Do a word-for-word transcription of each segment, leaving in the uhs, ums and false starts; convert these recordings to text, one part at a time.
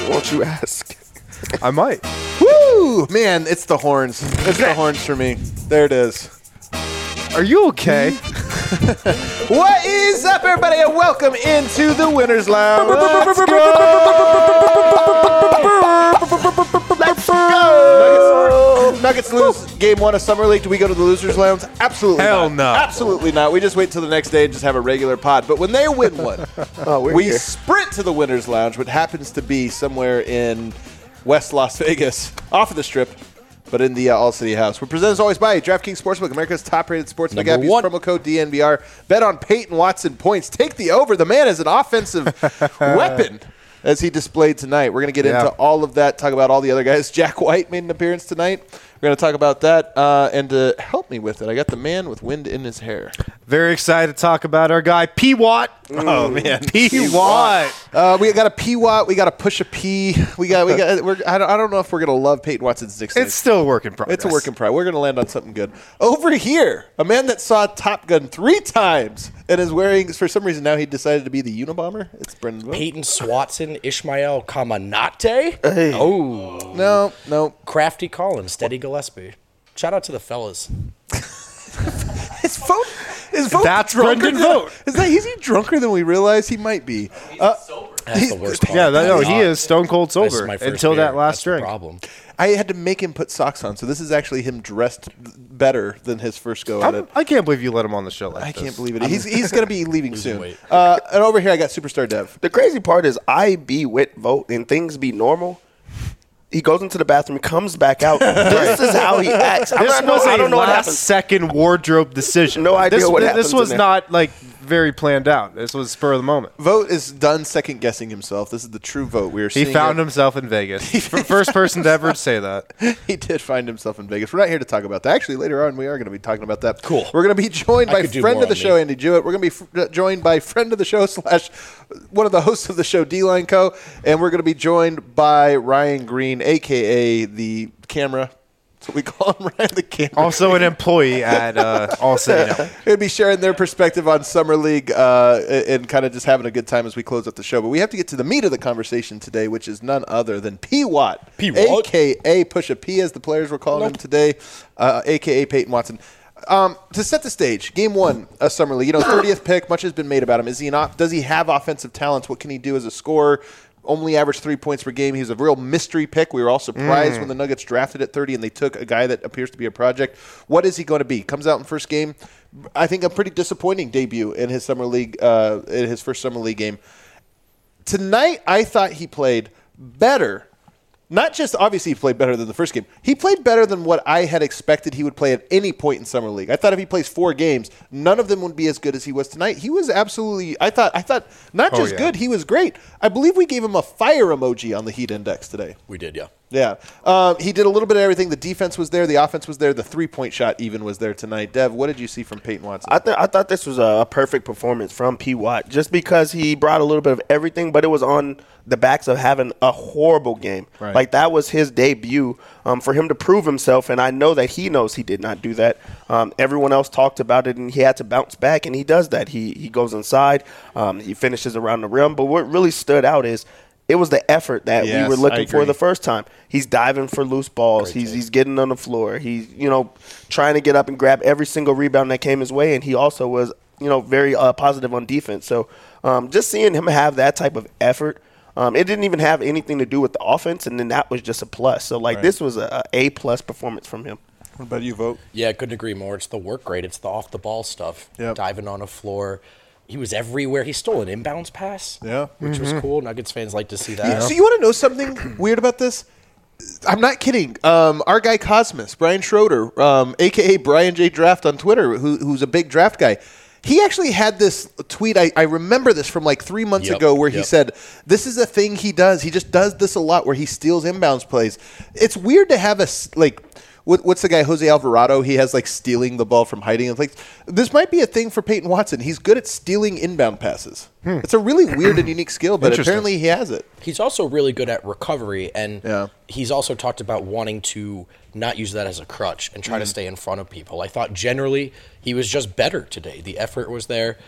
Won't you ask? I might. Woo! Man, it's the horns. It's the horns for me. There it is. Are you okay? What is up, everybody, and welcome into the Winners Lounge. Let's go! Let's go! Nuggets, Nuggets lose game one of Summer League. Do we go to the Losers Lounge? Absolutely Hell not. no. Absolutely not. We just wait till the next day and just have a regular pod. But when they win one, Oh, we're we here. sprint to the Winners Lounge, which happens to be somewhere in West Las Vegas, off of the Strip, but in the uh, All City House. We're presented as always by DraftKings Sportsbook, America's top-rated sportsbook Number app. Use one. promo code D N V R. Bet on Peyton Watson points. Take the over. The man is an offensive weapon, as he displayed tonight. We're going to get Yeah. into all of that, talk about all the other guys. Jack White made an appearance tonight. We're going to talk about that. Uh, and to help me with it, I got the man with wind in his hair. Very excited to talk about our guy, P. Watt. Oh, man. P. Watt. Uh, we got a P Watt. We got to push a P. We got. We got. We're, I don't. I don't know if we're gonna love Peyton Watson's nickname. It's still a work in progress. It's a work in progress. We're going to land on something good. Over here, a man that saw Top Gun three times and is wearing, for some reason now he decided to be the Unabomber. It's Brendan Vogt. Peyton Swatson, Ishmael Kamanate. Hey. Oh, No, no. Crafty Collins, Steady Gillespie. Shout out to the fellas. His vote is vote That's drunker Brendan than- Vogt. Is that is he drunker than we realize he might be? Uh, That's the worst part. Yeah, that, no, That's he not- is stone cold this is sober my first until beer. that last That's the drink. problem. I had to make him put socks on, so this is actually him dressed better than his first go at I'm, it. I can't believe you let him on the show like I this. can't believe it. He's he's going to be leaving Losing soon. weight. Uh, and over here, I got Superstar Dev. The crazy part is I be with Vote and things be normal. He goes into the bathroom, comes back out. This is how he acts. I'm This not know, was I a don't know what last happens. second wardrobe decision. No idea this, what This happens was in there. not like very planned out. This was spur of the moment. Vote is done second guessing himself. This is the true Vote. We are He seeing found it. himself in Vegas. F- First person to ever say that. He did find himself in Vegas. We're not here to talk about that. Actually, later on, we are going to be talking about that. Cool. We're going to be joined I by could do friend more of the on show, me. Andy Jewett. We're going to be f- joined by friend of the show slash one of the hosts of the show, D-Line Co. And we're going to be joined by Ryan Green, a k a the camera. That's what we call him, Ryan, the camera. Also an employee at uh, All City now. Going to be sharing their perspective on Summer League uh, and kind of just having a good time as we close up the show. But we have to get to the meat of the conversation today, which is none other than P. Watt, P. Watt. a k a. Push a P, as the players were calling him today, uh, a k a. Peyton Watson. Um, to set the stage, game one of Summer League, you know, thirtieth pick, much has been made about him. Is he an off, does he have offensive talents? What can he do as a scorer? Only averaged three points per game. He was a real mystery pick. We were all surprised when the Nuggets drafted at thirty and they took a guy that appears to be a project. What is he going to be? Comes out in first game. I think a pretty disappointing debut in his summer league, uh, in his first summer league game. Tonight, I thought he played better. Not just obviously he played better than the first game. He played better than what I had expected he would play at any point in summer league. I thought if he plays four games, none of them would be as good as he was tonight. He was absolutely. I thought. I thought not Oh, just yeah. good. He was great. I believe we gave him a fire emoji on the Heat Index today. We did, yeah. Yeah, um, he did a little bit of everything. The defense was there. The offense was there. The three-point shot even was there tonight. Dev, what did you see from Peyton Watson? I, th- I thought this was a perfect performance from P. Watt just because he brought a little bit of everything, but it was on the backs of having a horrible game. Right. Like, that was his debut um, for him to prove himself, and I know that he knows he did not do that. Um, everyone else talked about it, and he had to bounce back, and he does that. He, he goes inside. Um, he finishes around the rim, but what really stood out is it was the effort that Yes, we were I looking for agree. the first time. He's diving for loose balls. Great he's take. he's getting on the floor. He's, you know, trying to get up and grab every single rebound that came his way, and he also was, you know, very uh, positive on defense. So um, just seeing him have that type of effort, um, it didn't even have anything to do with the offense, and then that was just a plus. So, like, Right. this was a A plus performance from him. What about you, Vote? Yeah, I couldn't agree more. It's the work rate. It's the off-the-ball stuff. Yep. Diving on a floor. He was everywhere. He stole an inbounds pass. Yeah. Which was cool. Nuggets fans like to see that. So you want to know something weird about this? I'm not kidding. Um, our guy Cosmos, Brian Schroeder, um, a k a. Brian J. Draft on Twitter, who, who's a big draft guy, he actually had this tweet. I, I remember this from like three months Yep, ago where he yep. said, this is a thing he does. He just does this a lot where he steals inbounds plays. It's weird to have a, s- like, what, what's the guy, Jose Alvarado? He has like stealing the ball from hiding. It's like, this might be a thing for Peyton Watson. He's good at stealing inbound passes. It's a really weird and unique skill, but Interesting. apparently he has it. He's also really good at recovery, and Yeah. he's also talked about wanting to not use that as a crutch and try to stay in front of people. I thought generally he was just better today. The effort was there.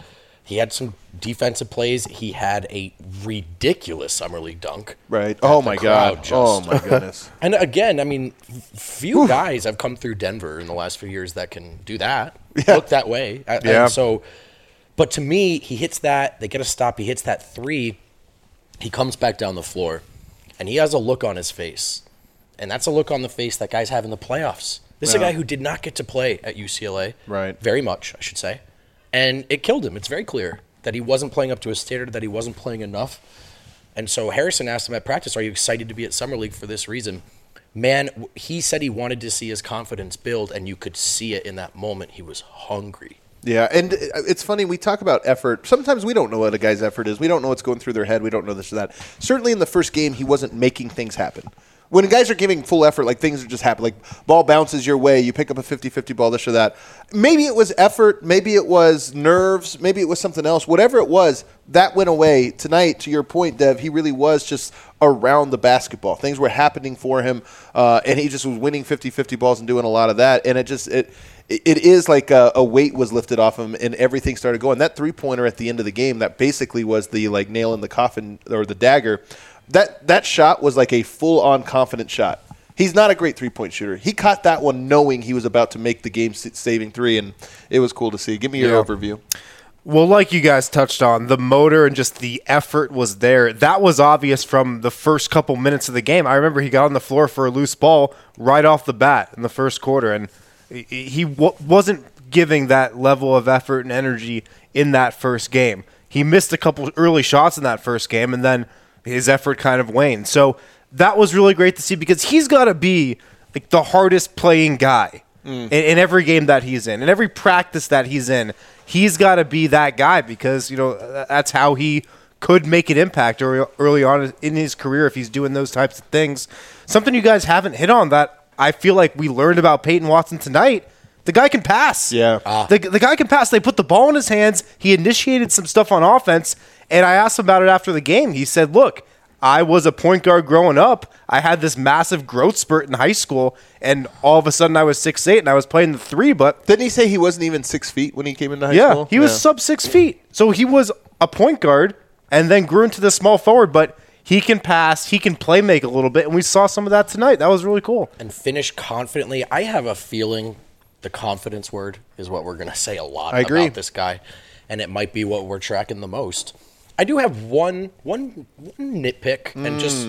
He had some defensive plays. He had a ridiculous summer league dunk. Right. that Oh, the my crowd God. just- Oh, my goodness. And again, I mean, few guys have come through Denver in the last few years that can do that, Yeah. look that way. And Yeah. so, but to me, he hits that. They get a stop. He hits that three. He comes back down the floor, and he has a look on his face. And that's a look on the face that guys have in the playoffs. This is a Yeah. guy who did not get to play at U C L A. Right. Very much, I should say. And it killed him. It's very clear that he wasn't playing up to his standard, that he wasn't playing enough. And so Harrison asked him at practice, are you excited to be at Summer League for this reason? Man, w- he said he wanted to see his confidence build, and you could see it in that moment. He was hungry. Yeah, and it's funny, we talk about effort. Sometimes we don't know what a guy's effort is. We don't know what's going through their head. We don't know this or that. Certainly in the first game, he wasn't making things happen. When guys are giving full effort, like things are just happening, like ball bounces your way, you pick up a fifty-fifty ball, this or that. Maybe it was effort, maybe it was nerves, maybe it was something else. Whatever it was, that went away. Tonight, to your point, Dev, he really was just around the basketball. Things were happening for him, uh, and he just was winning fifty-fifty balls and doing a lot of that. And it just it it is like a, a weight was lifted off him, and everything started going. That three-pointer at the end of the game, that basically was the like nail in the coffin or the dagger. That that shot was like a full-on confident shot. He's not a great three-point shooter. He caught that one knowing he was about to make the game-saving three, and it was cool to see. Give me your Yeah. overview. Well, like you guys touched on, the motor and just the effort was there. That was obvious from the first couple minutes of the game. I remember he got on the floor for a loose ball right off the bat in the first quarter, and he- he w- wasn't giving that level of effort and energy in that first game. He missed a couple early shots in that first game, and then his effort kind of waned. So that was really great to see because he's got to be like the hardest playing guy mm. in, in every game that he's in, in every practice that he's in. He's got to be that guy because, you know, that's how he could make an impact early, early on in his career if he's doing those types of things. Something you guys haven't hit on that I feel like we learned about Peyton Watson tonight. The guy can pass. Yeah. Ah. The, the guy can pass. They put the ball in his hands. He initiated some stuff on offense, and I asked him about it after the game. He said, look, I was a point guard growing up. I had this massive growth spurt in high school, and all of a sudden I was six eight and I was playing the three, but Didn't he say he wasn't even six feet when he came into high yeah, school? he was sub six feet. So he was a point guard and then grew into the small forward, but he can pass, he can play make a little bit, and we saw some of that tonight. That was really cool. And finish confidently. I have a feeling the confidence word is what we're going to say a lot I agree. about this guy, and it might be what we're tracking the most. I do have one one, one nitpick, and just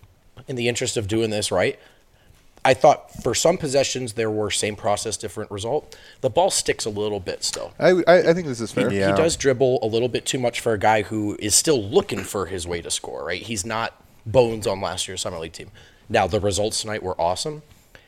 in the interest of doing this right, I thought for some possessions there were same process, different result. The ball sticks a little bit still. I, I, I think this is fair. He, he does dribble a little bit too much for a guy who is still looking for his way to score, right? He's not bones on last year's Summer League team. Now, the results tonight were awesome,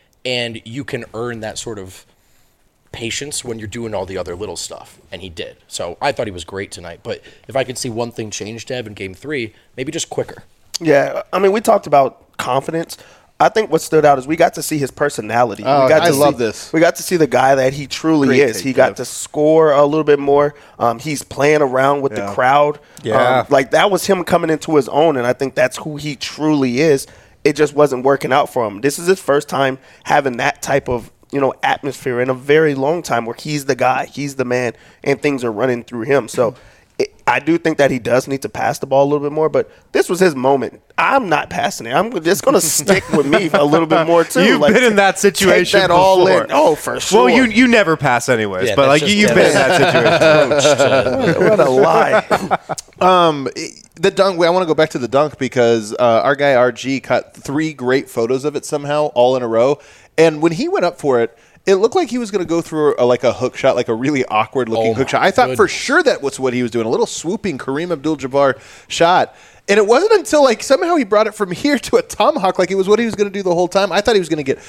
and you can earn that sort of patience when you're doing all the other little stuff, and he did. So I thought he was great tonight, but if I could see one thing change, Deb, in game three, maybe just quicker. Yeah, I mean, we talked about confidence. I think what stood out is we got to see his personality. Oh, we got I to love see, this. We got to see the guy that he truly Great is. take, He got Dev. to score a little bit more. Um, he's playing around with Yeah. the crowd. Yeah. Um, like that was him coming into his own, and I think that's who he truly is. It just wasn't working out for him. This is his first time having that type of, you know, atmosphere in a very long time where he's the guy, he's the man, and things are running through him. So it, I do think that he does need to pass the ball a little bit more, but this was his moment. I'm not passing it. I'm just going to stick with me a little bit more, too. You've Like, been in that situation take that all before. in. Oh, for sure. Well, you you never pass anyways, Yeah, but that's like just- you've yeah, been in that situation. What a lie. Um, the dunk. I want to go back to the dunk because uh, our guy R G caught three great photos of it somehow, all in a row. And when he went up for it, it looked like he was going to go through a, like a hook shot, like a really awkward looking Oh hook my shot. I thought for goodness. sure that was what he was doing, a little swooping Kareem Abdul-Jabbar shot. And it wasn't until like somehow he brought it from here to a tomahawk, like it was what he was going to do the whole time. I thought he was going to get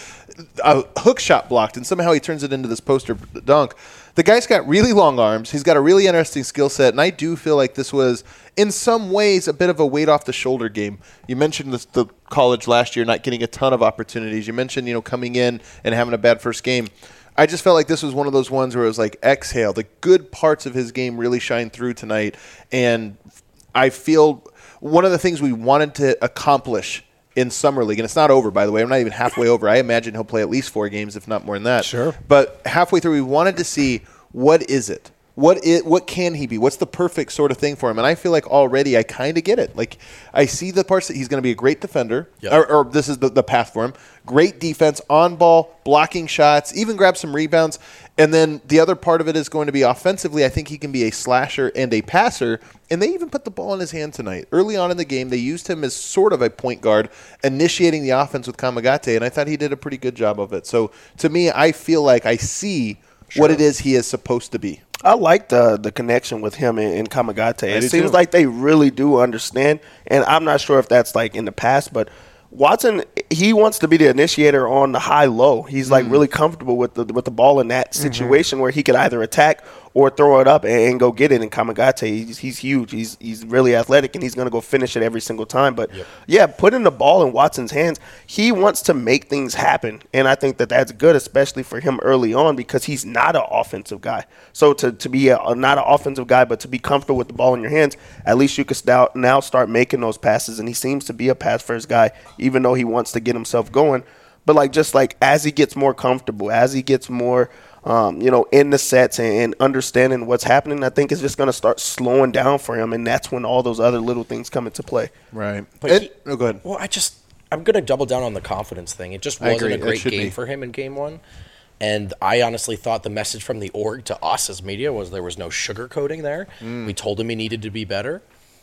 a hook shot blocked, and somehow he turns it into this poster dunk. The guy's got really long arms. He's got a really interesting skill set, and I do feel like this was, in some ways, a bit of a weight off the shoulder game. You mentioned this, the college last year not getting a ton of opportunities. You mentioned, you know, coming in and having a bad first game. I just felt like this was one of those ones where it was like exhale. The good parts of his game really shine through tonight, and I feel one of the things we wanted to accomplish in Summer League, and it's not over, by the way. I'm not even halfway over. I imagine he'll play at least four games, if not more than that. Sure. But halfway through, we wanted to see what is it? What it, what can he be? What's the perfect sort of thing for him? And I feel like already I kind of get it. Like I see the parts that he's going to be a great defender, Yep. or, or this is the, the path for him. Great defense, on ball, blocking shots, even grab some rebounds. And then the other part of it is going to be offensively. I think he can be a slasher and a passer. And they even put the ball in his hand tonight. Early on in the game, they used him as sort of a point guard, initiating the offense with Kamagate, and I thought he did a pretty good job of it. So to me, I feel like I see sure. what it is he is supposed to be. I like the the connection with him and, and Kamagate. It seems too. like they really do understand, and I'm not sure if that's like in the past, but Watson, he wants to be the initiator on the high-low. He's like mm. really comfortable with the with the ball in that situation mm-hmm. where he could either attack or throw it up and, and go get it. And Kamagate, he's, he's huge. He's he's really athletic, and he's going to go finish it every single time. But, yep. yeah, putting the ball in Watson's hands, he wants to make things happen. And I think that that's good, especially for him early on, because he's not an offensive guy. So to, to be a, not an offensive guy, but to be comfortable with the ball in your hands, at least you can st- now start making those passes. And he seems to be a pass-first guy, even though he wants to get himself going. But, like, just like as he gets more comfortable, as he gets more – Um, you know, in the sets and, and understanding what's happening, I think it's just going to start slowing down for him, and that's when all those other little things come into play. Right. But it, he, oh, go ahead. Well, I just I'm going to double down on the confidence thing. It just wasn't a great game be. for him in game one, and I honestly thought the message from the org to us as media was there was no sugarcoating there. Mm. We told him he needed to be better.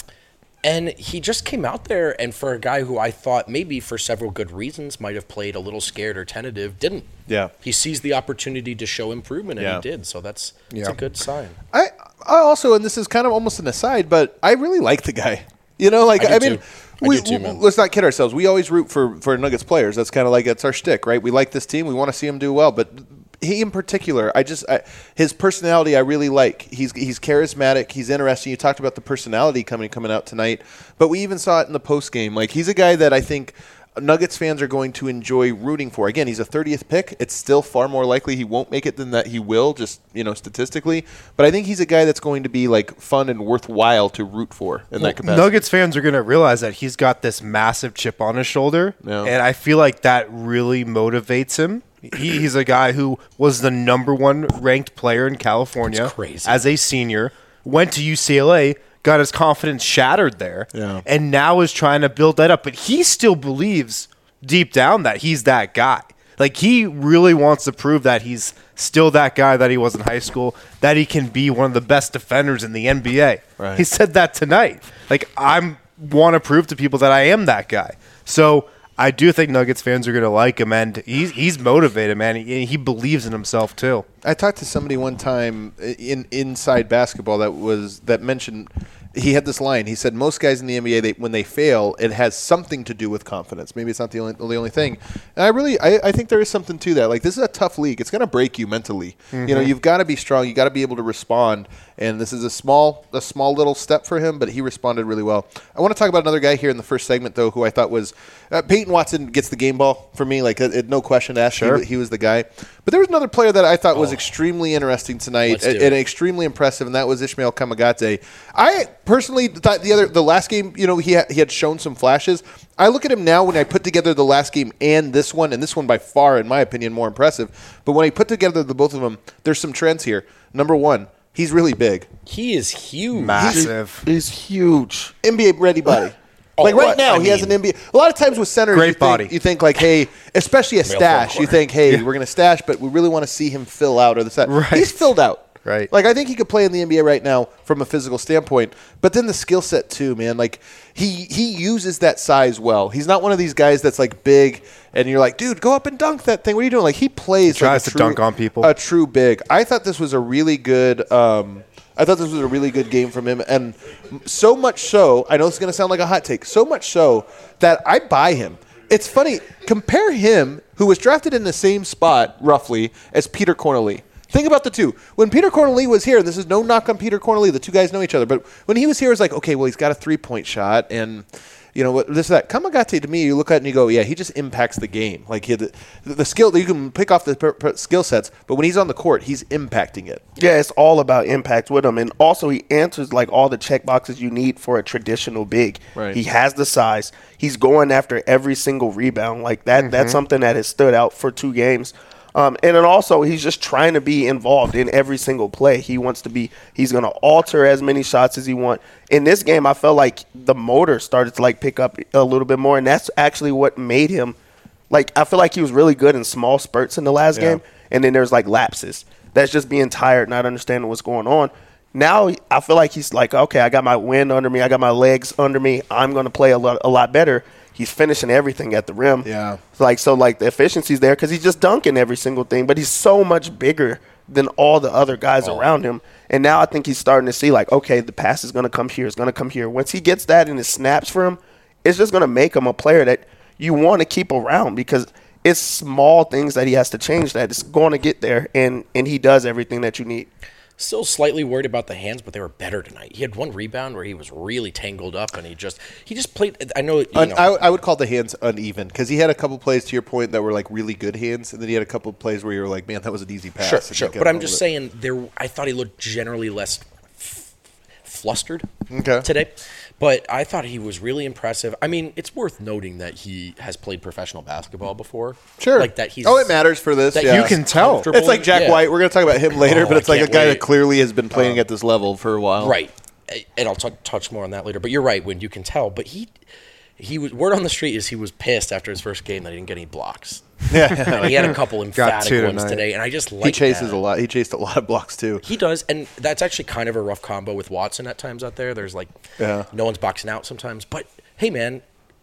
And he just came out there, and for a guy who I thought maybe for several good reasons might have played a little scared or tentative, didn't. Yeah. He seized the opportunity to show improvement, and yeah. he did. So that's, that's yeah. a good sign. I, I also, and this is kind of almost an aside, but I really like the guy. You know, like, I, I mean, too. I we, too, man. let's not kid ourselves. We always root for, for Nuggets players. That's kind of like, that's our shtick, right? We like this team. We want to see them do well, but he in particular, I just I, his personality I really like. He's he's charismatic. He's interesting. You talked about the personality coming coming out tonight, but we even saw it in the post game. Like he's a guy that I think Nuggets fans are going to enjoy rooting for. Again, he's a thirtieth pick. It's still far more likely he won't make it than that he will, just you know statistically. But I think he's a guy that's going to be like fun and worthwhile to root for in well, that capacity. Nuggets fans are going to realize that he's got this massive chip on his shoulder, yeah. and I feel like that really motivates him. He, he's a guy who was the number one ranked player in California as a senior, went to U C L A, got his confidence shattered there, yeah. and now is trying to build that up. But he still believes deep down that he's that guy. Like, he really wants to prove that he's still that guy that he was in high school, that he can be one of the best defenders in the N B A. Right. He said that tonight. Like, I want to prove to people that I am that guy. So I do think Nuggets fans are going to like him, and he's, he's motivated, man. He, he believes in himself, too. I talked to somebody one time in inside basketball that was that mentioned he had this line. He said most guys in the N B A, they, when they fail, it has something to do with confidence. Maybe it's not the only the only thing. And I really, I, I think there is something to that. Like, this is a tough league. It's going to break you mentally. Mm-hmm. You know, you've got to be strong. You got to be able to respond. And this is a small, a small little step for him, but he responded really well. I want to talk about another guy here in the first segment, though, who I thought was uh, Peyton Watson gets the game ball for me. Like, it, no question asked. Sure. He, he was the guy. But there was another player that I thought oh. was extremely interesting tonight and, and extremely impressive, and that was Ishmael Kamagate. I personally thought the other, the last game, you know, he had, he had shown some flashes. I look at him now when I put together the last game and this one, and this one by far, in my opinion, more impressive. But when I put together the both of them, there's some trends here. Number one, he's really big. He is huge. Massive. He's, he's huge. N B A-ready body. Oh, like right what? now, I he mean, has an N B A. A lot of times with centers, great you, think, body. you think like, hey, especially a stash, you think, hey, Yeah. we're going to stash, but we really want to see him fill out or the set. Right. He's filled out. Right. Like, I think he could play in the N B A right now from a physical standpoint, but then the skill set too, man. Like, he he uses that size well. He's not one of these guys that's like big and you're like, dude, go up and dunk that thing. What are you doing? Like, he plays He tries like a to true, dunk on people. A true big. I thought this was a really good um, I thought this was a really good game from him, and so much so, I know it's going to sound like a hot take, so much so that I buy him. It's funny, compare him, who was drafted in the same spot, roughly, as Peter Cornely. Think about the two. When Peter Cornely was here, and this is no knock on Peter Cornely, the two guys know each other, but when he was here, it was like, okay, well, he's got a three-point shot, and you know, this that. Kamagate, to me, you look at it and you go, yeah, he just impacts the game. Like, he had the, the skill that you can pick off the per, per skill sets, but when he's on the court, he's impacting it. Yeah, it's all about impact with him. And also, he answers, like, all the check boxes you need for a traditional big. Right. He has the size. He's going after every single rebound. Like, that. Mm-hmm. That's something that has stood out for two games. Um, and then also, he's just trying to be involved in every single play. He wants to be – he's going to alter as many shots as he wants. In this game, I felt like the motor started to, like, pick up a little bit more, and that's actually what made him – like, I feel like he was really good in small spurts in the last Yeah. game, and then there's, like, lapses. That's just being tired, not understanding what's going on. Now I feel like he's like, okay, I got my wind under me. I got my legs under me. I'm going to play a lot, a lot better. He's finishing everything at the rim. Yeah. Like, so, like, the efficiency's there because he's just dunking every single thing. But he's so much bigger than all the other guys Oh. around him. And now I think he's starting to see, like, okay, the pass is going to come here. It's going to come here. Once he gets that and it snaps for him, it's just going to make him a player that you want to keep around because it's small things that he has to change that it's going to get there. And, and he does everything that you need. Still slightly worried about the hands, but they were better tonight. He had one rebound where he was really tangled up, and he just he just played. I know, you Un- know I, I would call the hands uneven because he had a couple plays to your point that were like really good hands, and then he had a couple of plays where you were like, "Man, that was an easy pass." sure, and sure. he got But I'm over just it. saying, there. I thought he looked generally less f- flustered Okay. today, but I thought he was really impressive. I mean, it's worth noting that he has played professional basketball before. Sure. like that. He's oh, it matters for this. that Yeah. You can tell. comfortable. It's like Jack Yeah. White. We're going to talk about him later, Oh, but it's I like a can't guy wait. that clearly has been playing at this level for a while. Right. And I'll t- touch more on that later. But you're right, when you can tell. But he, he was word on the street is he was pissed after his first game that he didn't get any blocks. Yeah. He had a couple emphatic two ones tonight. today, and I just like he chases that. a lot. He chased a lot of blocks too. He does, and that's actually kind of a rough combo with Watson at times out there. There's like, Yeah. no one's boxing out sometimes. But hey, man,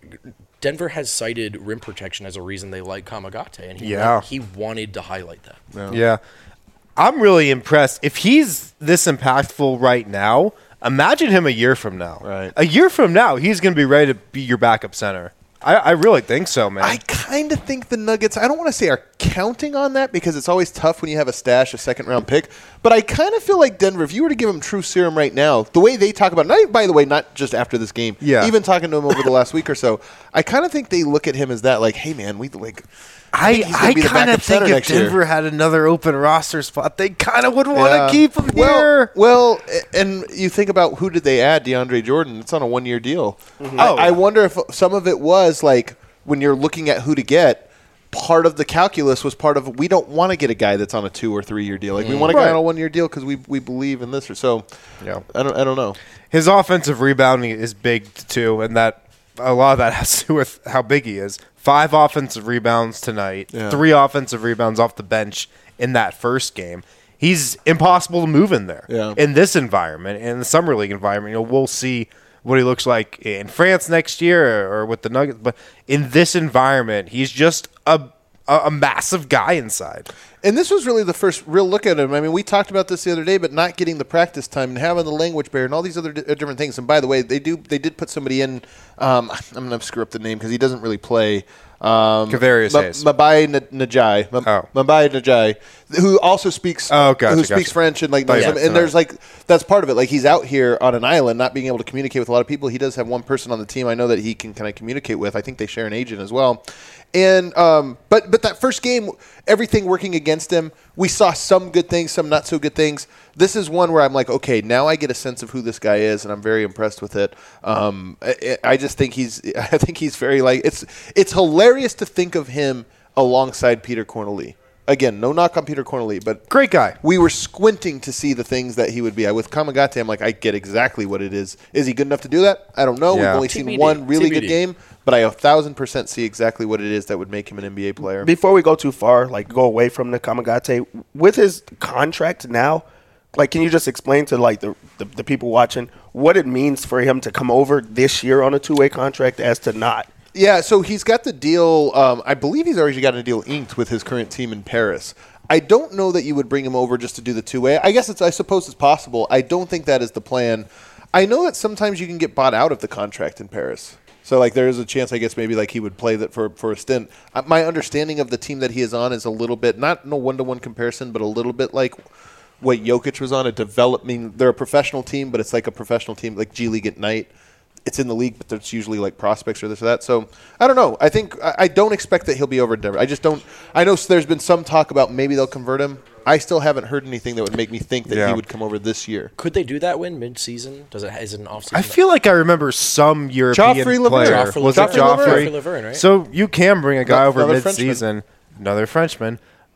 Denver has cited rim protection as a reason they like Kamagate, and he Yeah. he wanted to highlight that. Yeah. I'm really impressed. If he's this impactful right now, imagine him a year from now. Right. A year from now, he's going to be ready to be your backup center. I, I really think so, man. I kind of think the Nuggets, I don't want to say are counting on that because it's always tough when you have a stash, a second round pick. But I kind of feel like Denver, if you were to give them true serum right now, the way they talk about it, by the way, not just after this game, Yeah. even talking to him over the last week or so, I kind of think they look at him as that, like, hey, man, we like. I, think he's gonna I be the kind backup of think center if next year. Denver had another open roster spot, they kind of would want to Yeah. keep him well, here. Well, and you think about who did they add? DeAndre Jordan. It's on a one year deal. Oh. I, I wonder if some of it was like when you're looking at who to get. Part of the calculus was part of we don't want to get a guy that's on a two or three year deal. Like we want a guy Right. on a one year deal because we we believe in this or so. Yeah. I don't I don't know. His offensive rebounding is big too, and that a lot of that has to do with how big he is. Five offensive rebounds tonight, Yeah. three offensive rebounds off the bench in that first game. He's impossible to move in there. Yeah. In this environment, in the summer league environment, you know, we'll see what he looks like in France next year or, or with the Nuggets. But in this environment, he's just a a, a massive guy inside. And this was really the first real look at him. I mean, we talked about this the other day, but not getting the practice time and having the language barrier and all these other di- uh, different things. And by the way, they do they did put somebody in. Um, I'm going to screw up the name because he doesn't really play. Um, Kavarius Ma- Hayes. Mabai N- Najai. Ma- Oh. Mabai Najai, who also speaks. Oh, gotcha, Who gotcha. speaks French and like Oh, knows yeah, some- and tonight. there's like that's part of it. Like he's out here on an island, not being able to communicate with a lot of people. He does have one person on the team I know that he can kind of communicate with. I think they share an agent as well. And um, but but that first game, everything working against him. We saw some good things, some not so good things. This is one where I'm like, okay, now I get a sense of who this guy is, and I'm very impressed with it. Um, I, I just think he's, I think he's very like it's it's hilarious to think of him alongside Peter Corneli. Again, no knock on Peter Corneli, but Great guy. we were squinting to see the things that he would be. I, with Kamagate, I'm like, I get exactly what it is. Is he good enough to do that? I don't know. Yeah. We've only T B D. seen one really T B D. good game, but I a thousand percent see exactly what it is that would make him an N B A player. Before we go too far, like go away from the Kamagate, with his contract now, like can you just explain to like the, the, the people watching what it means for him to come over this year on a two-way contract as to not? Yeah, so he's got the deal. Um, I believe he's already got a deal inked with his current team in Paris. I don't know that you would bring him over just to do the two-way. I guess it's. I suppose it's possible. I don't think that is the plan. I know that sometimes you can get bought out of the contract in Paris. So like there is a chance, I guess, maybe like he would play that for for a stint. Uh, my understanding of the team that he is on is a little bit not no one-to-one comparison, but a little bit like what Jokic was on. A developing. They're a professional team, but it's like a professional team, like G League at night. It's in the league, but there's usually like prospects or this or that. So I don't know. I think I, I don't expect that he'll be over in Denver. I just don't. I know there's been some talk about maybe they'll convert him. I still haven't heard anything that would make me think that Yeah. he would come over this year. Could they do that win mid-season? Does it is it an off-season? I feel like I remember some European Joffrey Laverne. player. Joffrey Was it Laverne. Joffrey? Joffrey Laverne, right? So you can bring a guy No- over another mid-season, another Frenchman.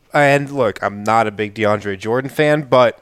And look, I'm not a big DeAndre Jordan fan, but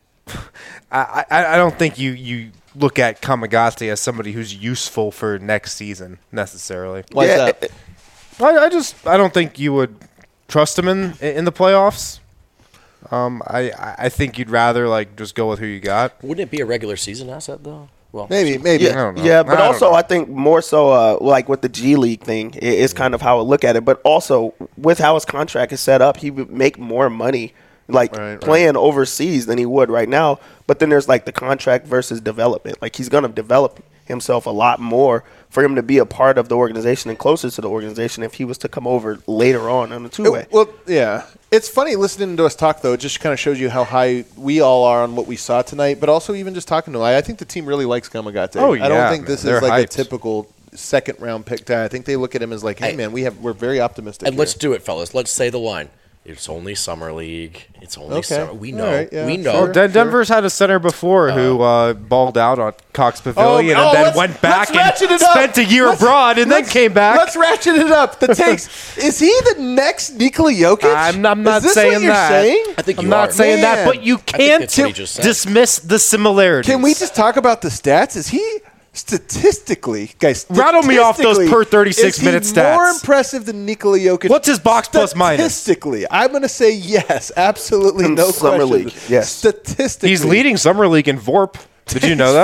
I, I, I don't think you, you look at Kamagate as somebody who's useful for next season necessarily. Why is Yeah, that? I, I just I don't think you would trust him in in the playoffs. Um, I I think you'd rather like just go with who you got. Wouldn't it be a regular season asset though? Well, Maybe, maybe. Yeah, don't know. yeah, but I don't also know. I think more so uh, like with the G League thing i- is kind of how I look at it. But also with how his contract is set up, he would make more money like Right, right. playing overseas than he would right now. But then there's like the contract versus development. Like he's gonna develop himself a lot more for him to be a part of the organization and closer to the organization if he was to come over later on on a two way. It- well, yeah. It's funny listening to us talk, though. It just kind of shows you how high we all are on what we saw tonight, but also even just talking to him. I I think the team really likes Kamagate. Oh, I don't yeah, think man. this They're is like hyped. a typical second round pick guy. I think they look at him as like, hey, Hey. man, we have we're very optimistic. and here. let's do it, fellas. Let's say the line. It's only summer league. It's only Okay. summer. We All know. right, yeah, we know. sure. Well, Den- Denver's had a center before who uh, balled out on Cox Pavilion Oh, and oh, then let's- went back let's ratchet and it up. spent a year Let's- abroad and then let's- came back. Let's ratchet it up. The takes. Is he the next Nikola Jokic? I'm, I'm not is this saying what you're that. saying? I think I'm you not are. saying that, Man. but you I think can't that's what he just said. dismiss the similarities. Can we just talk about the stats? Is he statistically, guys? Rattle me off those statistically, per thirty-six is he minute stats. More impressive than Nikola Jokic. What's his box plus minus? Statistically, I'm going to say yes. Absolutely, In no Summer question. League, yes. Statistically, He's leading Summer League in V O R P. Did you know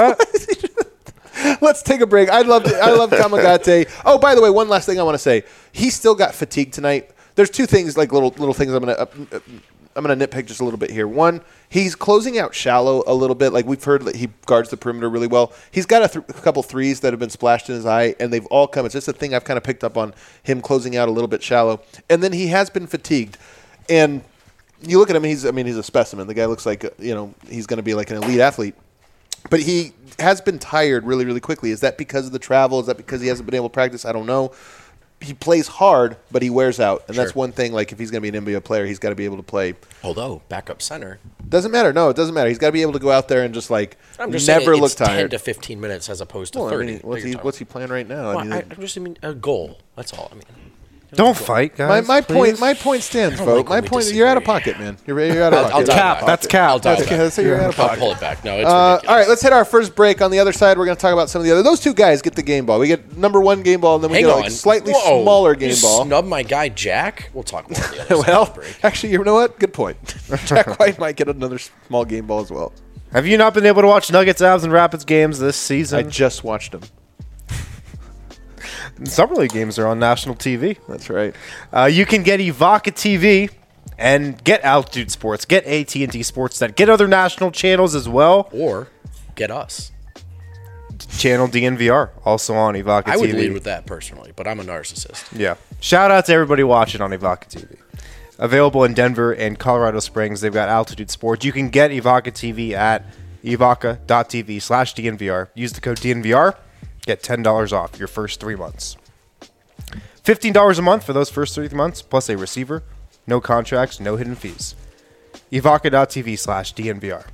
that? Let's take a break. I love I love Kamagate. Oh, by the way, one last thing I want to say. He still got fatigued tonight. There's two things, like little little things. I'm gonna uh, uh, I'm gonna nitpick just a little bit here. One, he's closing out shallow a little bit. Like we've heard that he guards the perimeter really well. He's got a, th- a couple threes that have been splashed in his eye, and they've all come. It's just a thing I've kind of picked up on him closing out a little bit shallow. And then he has been fatigued, and you look at him. He's I mean he's a specimen. The guy looks like uh, you know he's going to be like an elite athlete. But he has been tired really, really quickly. Is that because of the travel? Is that because he hasn't been able to practice? I don't know. He plays hard, but he wears out. And that's Sure. one thing, like, if he's going to be an N B A player, he's got to be able to play. Although backup center, Doesn't matter. No, it doesn't matter. He's got to be able to go out there and just, like, I'm just never saying look it's ten tired. to fifteen minutes as opposed to Well, I thirty. mean, that what's, you're he, talking what's he playing right now? Well, I mean, I, I just mean a goal. That's all. I mean, Don't fight, my, guys. my point please. my point stands, I don't Vogt. like my when we point you're out of disagree. pocket, man. You're, you're out of I'll- pocket. I'll dial Cap, it back. that's cap. I'll dial That's it okay. back. Let's say you're out of I'll pocket. pull it back. No, it's Uh, ridiculous. all right, let's hit our first break. On the other side, we're going to talk about some of the other. Those two guys get the game ball. We get number one game ball, and then we Hang get a on. like, slightly Whoa. smaller You game ball. Snub my guy Jack. We'll talk more. The other Well, side break. actually, you know what? Good point. Jack White might get another small game ball as well. Have you not been able to watch Nuggets, Avs, and Rapids games this I season? just watched them. Summer League games are on national T V. That's right. Uh, you can get Evoca T V and get Altitude Sports, get A T and T Sportsnet, get other national channels as well. Or get us. Channel D N V R also on Evoca I would T V. lead with that personally, but I'm a narcissist. Yeah. Shout out to everybody watching on Evoca T V. Available in Denver and Colorado Springs. They've got Altitude Sports. You can get Evoca T V at evoca.tv slash DNVR. Use the code D N V R. Get ten dollars off your first three months. fifteen dollars a month for those first three months, plus a receiver. No contracts, no hidden fees. Evoca.tv slash DNVR.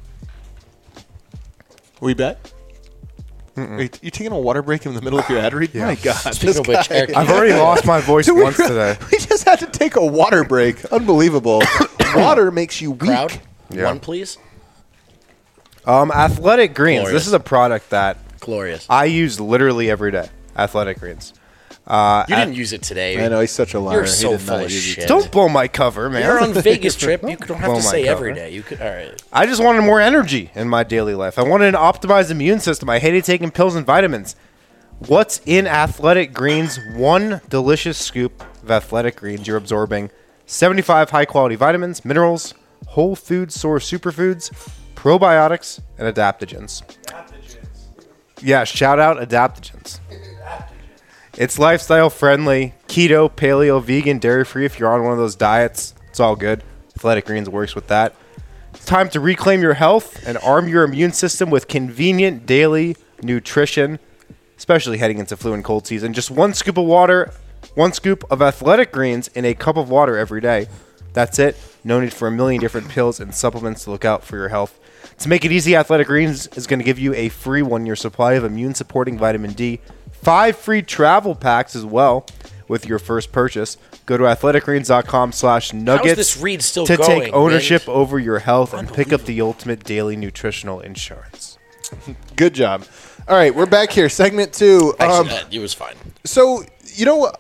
We bet? Are you, you taking a water break in the middle of your ad read? My God. Speaking this of which, guy- Eric, I've already lost my voice Dude, we once re- today. We just had to take a water break. Unbelievable. Water makes you weak. crowd, Yeah. one please. Um, Athletic Greens. Glorious. This is a product that Glorious. I use literally every day. Athletic Greens. Uh, You didn't use it today. I know, he's such a liar. You're He so did full not of use it. shit. Don't blow my cover, man. You're on Vegas trip. You don't have Blow to my say cover. every day. You could. All right. I just wanted more energy in my daily life. I wanted an optimized immune system. I hated taking pills and vitamins. What's in Athletic Greens? One delicious scoop of Athletic Greens. You're absorbing seventy-five high-quality vitamins, minerals, whole food source superfoods, probiotics, and adaptogens. Yeah, shout out adaptogens. It's lifestyle friendly, keto, paleo, vegan, dairy free. If you're on one of those diets, it's all good. Athletic Greens works with that. It's time to reclaim your health and arm your immune system with convenient daily nutrition, especially heading into flu and cold season. Just one scoop of water, one scoop of Athletic Greens in a cup of water every day. That's it. No need for a million different pills and supplements to look out for your health. To make it easy, Athletic Greens is going to give you a free one-year supply of immune-supporting vitamin D, five free travel packs as well, with your first purchase. Go to athleticgreens.com slash nuggets this read still to going, take ownership Mint? over your health and pick up the ultimate daily nutritional insurance. Good job. All right, we're back here. Segment two. Um, Actually, uh, it was fine. so, you know,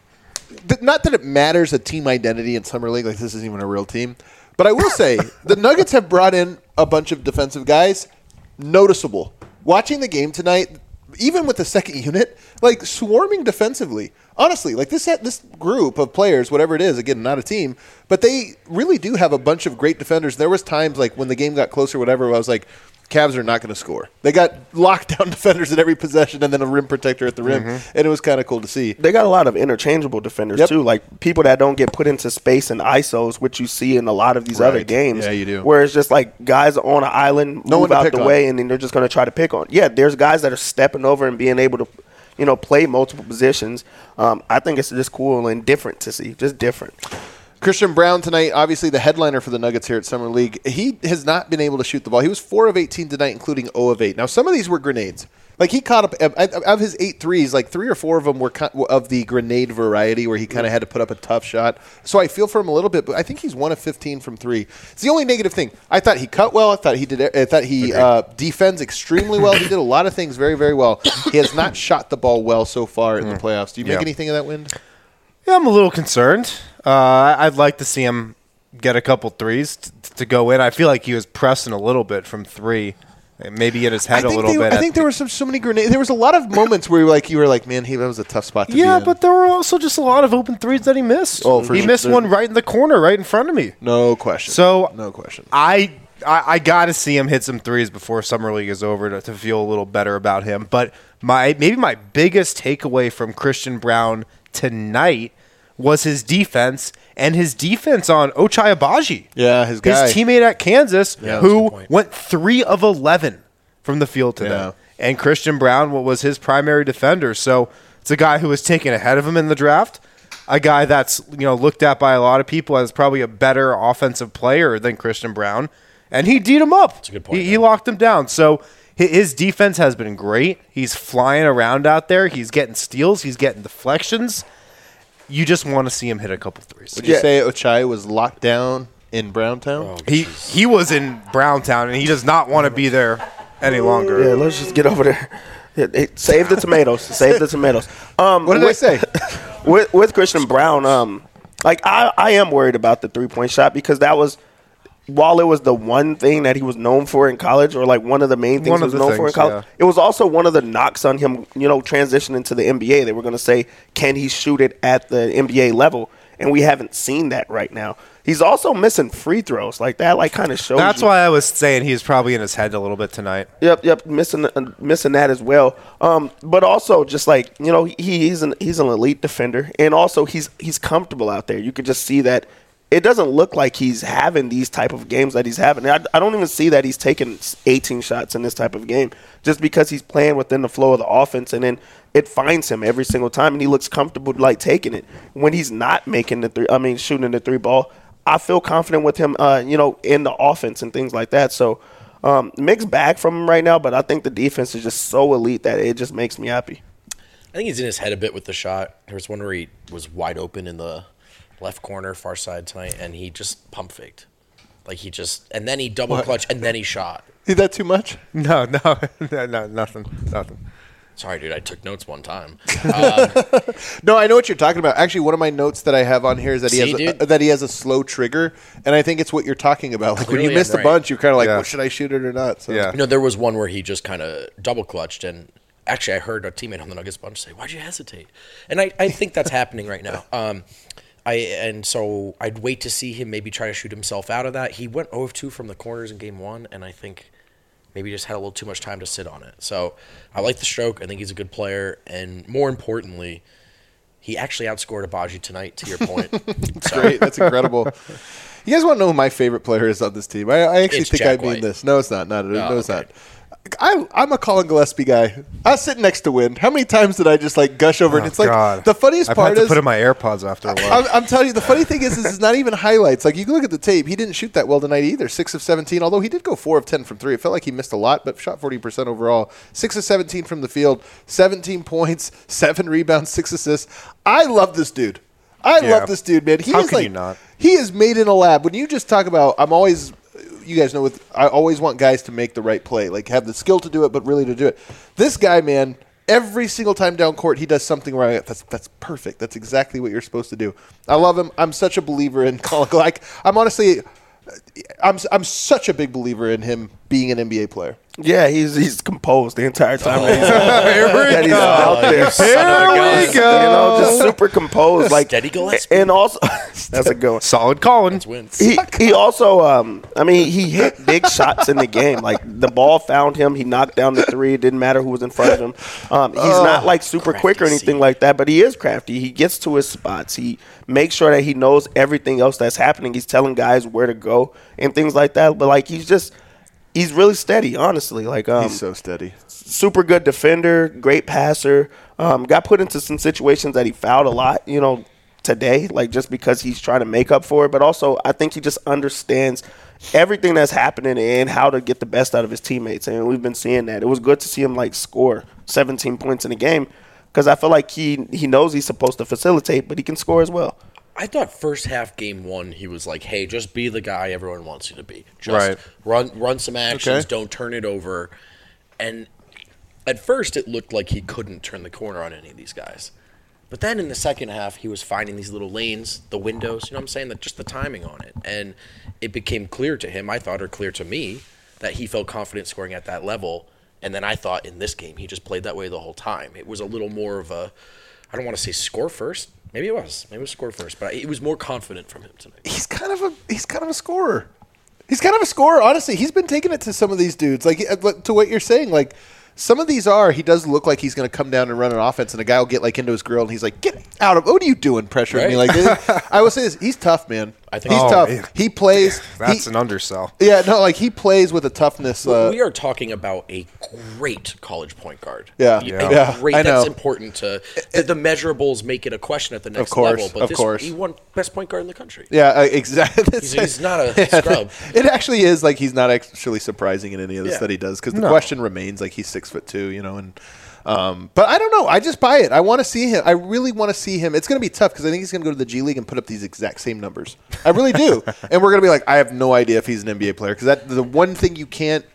th- not that it matters a team identity in Summer League, like this isn't even a real team, but I will say the Nuggets have brought in a bunch of defensive guys. Noticeable. Watching the game tonight, even with the second unit, like swarming defensively. Honestly, like this this group of players, whatever it is, again, not a team, but they really do have a bunch of great defenders. There was times like when the game got closer, whatever, where I was like, Cavs are not going to score. They got lockdown defenders at every possession and then a rim protector at the rim, mm-hmm. and it was kind of cool to see. They got a lot of interchangeable defenders, yep. too, like people that don't get put into space and I S Os, which you see in a lot of these right. other games. Yeah, you do. Where it's just like guys on an island, no move out the on. way, and then they're just going to try to pick on. Yeah, there's guys that are stepping over and being able to, you know, play multiple positions. Um, I think it's just cool and different to see, just different. Christian Braun tonight, obviously the headliner for the Nuggets here at Summer League. He has not been able to shoot the ball. He was four of eighteen tonight, including zero of eight. Now, some of these were grenades. Like, he caught up – of his eight threes, like three or four of them were of the grenade variety where he kind of had to put up a tough shot. So I feel for him a little bit, but I think he's one of fifteen from three. It's the only negative thing. I thought he cut well. I thought he did. I thought he uh, defends extremely well. He did a lot of things very, very well. He has not shot the ball well so far in the playoffs. Do you make yeah. anything of that, Wind? Yeah, I'm a little concerned. Uh, I'd like to see him get a couple threes t- to go in. I feel like he was pressing a little bit from three, maybe in his head a little they, bit. I think there were some so many grenades. There was a lot of moments where you were like, you were like, man, he that was a tough spot to yeah, be in. but there were also just a lot of open threes that he missed. Oh, for he sure. missed There's, one right in the corner, right in front of me. No question. So no question. I I, I got to see him hit some threes before Summer League is over to, to feel a little better about him. But my maybe my biggest takeaway from Christian Braun tonight was his defense, and his defense on Ochai Agbaji. Yeah, his guy. His teammate at Kansas, Yeah, who went three of eleven from the field today. Yeah. And Christian Braun was his primary defender. So it's a guy who was taken ahead of him in the draft, a guy that's you know looked at by a lot of people as probably a better offensive player than Christian Braun, and he D'd him up. That's a good point. He, he locked him down. So his defense has been great. He's flying around out there. He's getting steals. He's getting deflections. You just want to see him hit a couple threes. Would you yeah. say Ochai was locked down in Browntown? Oh, he he was in Browntown, and he does not want to be there any longer. Yeah, let's just get over there. Yeah, hey, save the tomatoes. Save the tomatoes. Um, what did with, I say? with with Christian Braun, um, like I, I am worried about the three point shot because that was, while it was the one thing that he was known for in college, or like one of the main things one he was of known things, for in college, yeah. it was also one of the knocks on him, you know, transitioning to the N B A. They were going to say, can he shoot it at the N B A level? And we haven't seen that right now. He's also missing free throws. Like that, like kind of shows. That's you. why I was saying he's probably in his head a little bit tonight. Yep, yep, missing uh, missing that as well. Um, but also just like you know, he, he's an he's an elite defender, and also he's he's comfortable out there. You could just see that. It doesn't look like he's having these type of games that he's having. I, I don't even see that he's taking eighteen shots in this type of game just because he's playing within the flow of the offense, and then it finds him every single time, and he looks comfortable like taking it. When he's not making the three, I mean shooting the three ball, I feel confident with him, uh, you know, in the offense and things like that. So um, mixed bag from him right now, but I think the defense is just so elite that it just makes me happy. I think he's in his head a bit with the shot. There was one where he was wide open in the left corner, far side tonight, and he just pump faked. Like he just, and then he double What? clutch, and then he shot. Is that too much? No, no, no, no, nothing, nothing. Sorry, dude, I took notes one time. Um, No, I know what you're talking about. Actually, one of my notes that I have on here is that he See, has a, dude? that he has a slow trigger, and I think it's what you're talking about. Like when you Clearly, missed I'm a right. bunch, you're kind of like, Yeah. well, should I shoot it or not? So. Yeah. you know, there was one where he just kind of double clutched, and actually, I heard a teammate on the Nuggets bunch say, "Why'd you hesitate?" And I, I think that's happening right now. Um, I and so I'd wait to see him maybe try to shoot himself out of that. He went zero of two from the corners in game one, and I think maybe just had a little too much time to sit on it. So I like the stroke. I think he's a good player, and more importantly, he actually outscored Agbaji tonight. To your point, That's great. That's incredible. You guys want to know who my favorite player is on this team? I, I actually It's think Jack I mean White. this. No, it's not. Not no, Oh, it's okay. not. I, I'm a Colin Gillespie guy. I was sitting next to Win. How many times did I just like gush over? and Oh, it's like God. the funniest I've part had to is put in my AirPods after a while. I'm, I'm telling you, the funny thing is, is it's not even highlights. Like you can look at the tape, he didn't shoot that well tonight either. Six of seventeen, although he did go four of ten from three. It felt like he missed a lot, but shot forty percent overall. Six of seventeen from the field, seventeen points, seven rebounds, six assists. I love this dude. I Yeah. love this dude, man. He How is can like you not? he is made in a lab. When you just talk about, I'm always. You guys know, with I always want guys to make the right play, like have the skill to do it, but really to do it. This guy, man, every single time down court, he does something where I, that's that's perfect. That's exactly what you're supposed to do. I love him. I'm such a believer in Colin. Like I'm honestly, I'm I'm such a big believer in him being an N B A player. Yeah, he's he's composed the entire time Oh. that he's, that he's out there. Here we You know, just super composed, like Steady Gillespie. and also that's a good one. Solid Colin. Wins. He he also um I mean he hit big shots in the game. Like the ball found him. He knocked down the three. It didn't matter who was in front of him. Um, he's not like super quick or anything like that, but he is crafty. He gets to his spots. He makes sure that he knows everything else that's happening. He's telling guys where to go and things like that. But like he's just he's really steady. Honestly, like um, He's so steady. super good defender, great passer. Um, got put into some situations that he fouled a lot, you know, today, like just because he's trying to make up for it. But also, I think he just understands everything that's happening and how to get the best out of his teammates. And we've been seeing that. It was good to see him like score seventeen points in a game because I feel like he he knows he's supposed to facilitate, but he can score as well. I thought first half game one, he was like, hey, just be the guy everyone wants you to be. Just Right. run run some actions, Okay. don't turn it over. And at first it looked like he couldn't turn the corner on any of these guys. But then in the second half, he was finding these little lanes, the windows, you know what I'm saying? That just the timing on it. And it became clear to him, I thought, or clear to me, that he felt confident scoring at that level. And then I thought in this game, he just played that way the whole time. It was a little more of a, I don't want to say score first. Maybe it was. Maybe it was score first, but it was more confident from him tonight. He's kind of a he's kind of a scorer. He's kind of a scorer. Honestly, he's been taking it to some of these dudes, like uh, to what you're saying. Like some of these are, he does look like he's going to come down and run an offense, and a guy will get like into his grill, and he's like, "Get out of! What are you doing, pressuring me Right. like this?" I will say this: he's tough, man. I think- he's Oh, tough. yeah. He plays. That's he, an undersell. yeah, no, like he plays with a toughness. Uh, we are talking about a great college point guard. Yeah. A Yeah. Yeah, great. I That's know. important to the, the measurables make it a question at the next course, level. But of this, course. he won best point guard in the country. Yeah, uh, exactly. He's, he's not a scrub. It actually is like he's not actually surprising in any of the Yeah. stuff he does because the No. question remains like he's six foot two, you know, and um, but I don't know. I just buy it. I want to see him. I really want to see him. It's going to be tough because I think he's going to go to the G League and put up these exact same numbers. I really do, and we're going to be like, I have no idea if he's an N B A player because that the one thing you can't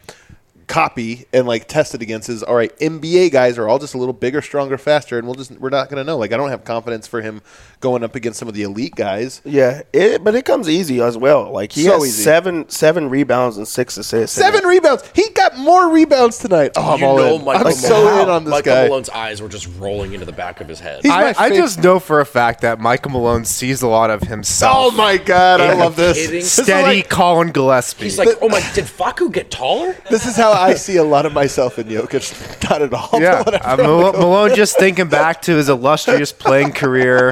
copy and like test it against is all right. N B A guys are all just a little bigger, stronger, faster, and we'll just we're not going to know. Like I don't have confidence for him going up against some of the elite guys. Yeah, it, but it comes easy as well. Like he So has easy. seven seven rebounds and six assists. Seven rebounds. He got more rebounds tonight. Oh, I'm you all know in. Michael I'm so Malone- in on this Michael guy. Malone's eyes were just rolling into the back of his head. He's my I, I fav- just know for a fact that Michael Malone sees a lot of himself. Oh my god, I Are you love this. kidding? This is, Steady like- Colin Gillespie. He's like, oh my, did Facu get taller? this is how I see a lot of myself in Jokic. Not at all. yeah, but uh, whenever I Malone, go- Malone just thinking back to his illustrious playing career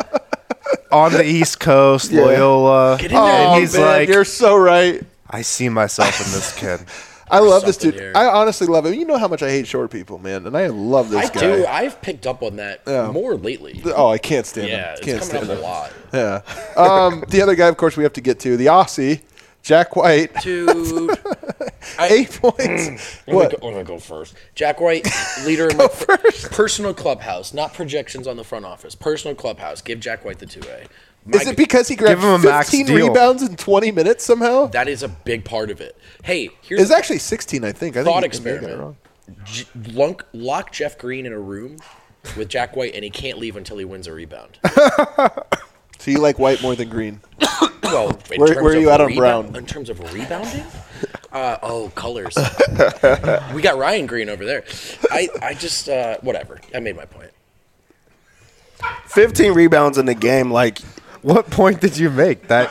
on the East Coast, Loyola. Get in there, Oh, and he's man, like, you're so right. I see myself in this kid. I love this something dude. here. I honestly love him. You know how much I hate short people, man, and I love this I guy. do. I've picked up on that Yeah. more lately. Oh, I can't stand Yeah, him. it's Can't coming stand up him. a lot. Yeah. Um, the other guy, of course, we have to get to the Aussie, Jack White. Dude. I, Eight points. I'm What? gonna, go, I'm gonna go first. Jack White, leader in my per- personal clubhouse, not projections on the front office. Personal clubhouse. Give Jack White the two A. My- Is it because he grabbed Give him a max fifteen deal. rebounds in twenty minutes somehow? that is a big part of it? Hey, here's It's a actually sixteen, I think. I thought think he may have got it experiment. wrong. J- lock, lock Jeff Green in a room with Jack White, and he can't leave until he wins a rebound. So you like White more than Green? Well, in Where- terms where are of you at on rebound- Brown? In terms of rebounding? Uh, oh, colors. We got Ryan Green over there. I, I just, uh, whatever. I made my point. fifteen rebounds in the game. Like What point did you make? That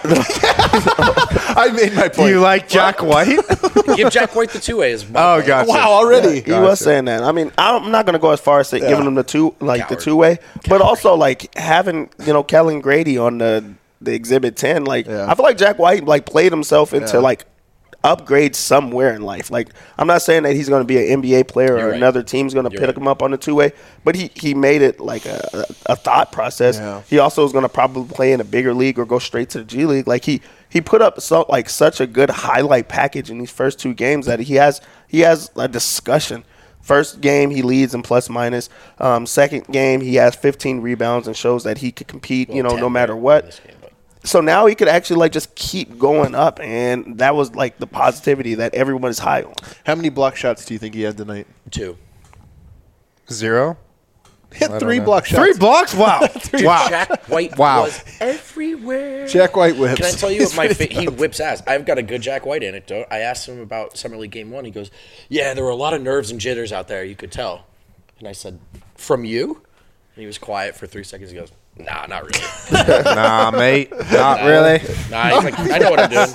I made my do point. you like Jack White? Give Jack White the two A. Is my Oh, point. gotcha. Wow, already. he was saying that. I mean, I'm not gonna go as far as say, giving him the two, like Coward. the two way, but also like having you know Kellen Grady on the the exhibit ten. Like Yeah. I feel like Jack White like played himself into Yeah. like upgrade somewhere in life. Like, I'm not saying that he's going to be an N B A player You're or right. another team's going to pick right. him up on the two way, but he, he made it like a, a, a thought process. Yeah. He also is going to probably play in a bigger league or go straight to the G League. Like he he put up so like such a good highlight package in these first two games that he has he has a discussion. First game, he leads in plus minus. Um, second game, he has fifteen rebounds and shows that he could compete, you know, ten no matter in what. this game, but- So now he could actually like just keep going up, and that was like the positivity that everyone is high on. How many block shots do you think he had tonight? Two. Zero. He had I don't three know. block shots. Three blocks. Wow. wow. Jack White Wow. was everywhere. Jack White whips. Can I tell you what my fa- he whips ass? I've got a good Jack White anecdote. I asked him about Summer League Game One. He goes, "Yeah, there were a lot of nerves and jitters out there. You could tell." And I said, "From you?" And he was quiet for three seconds. He goes, "Nah, not really. Nah, mate. Not really. Nah." He's like, "I know what I'm doing."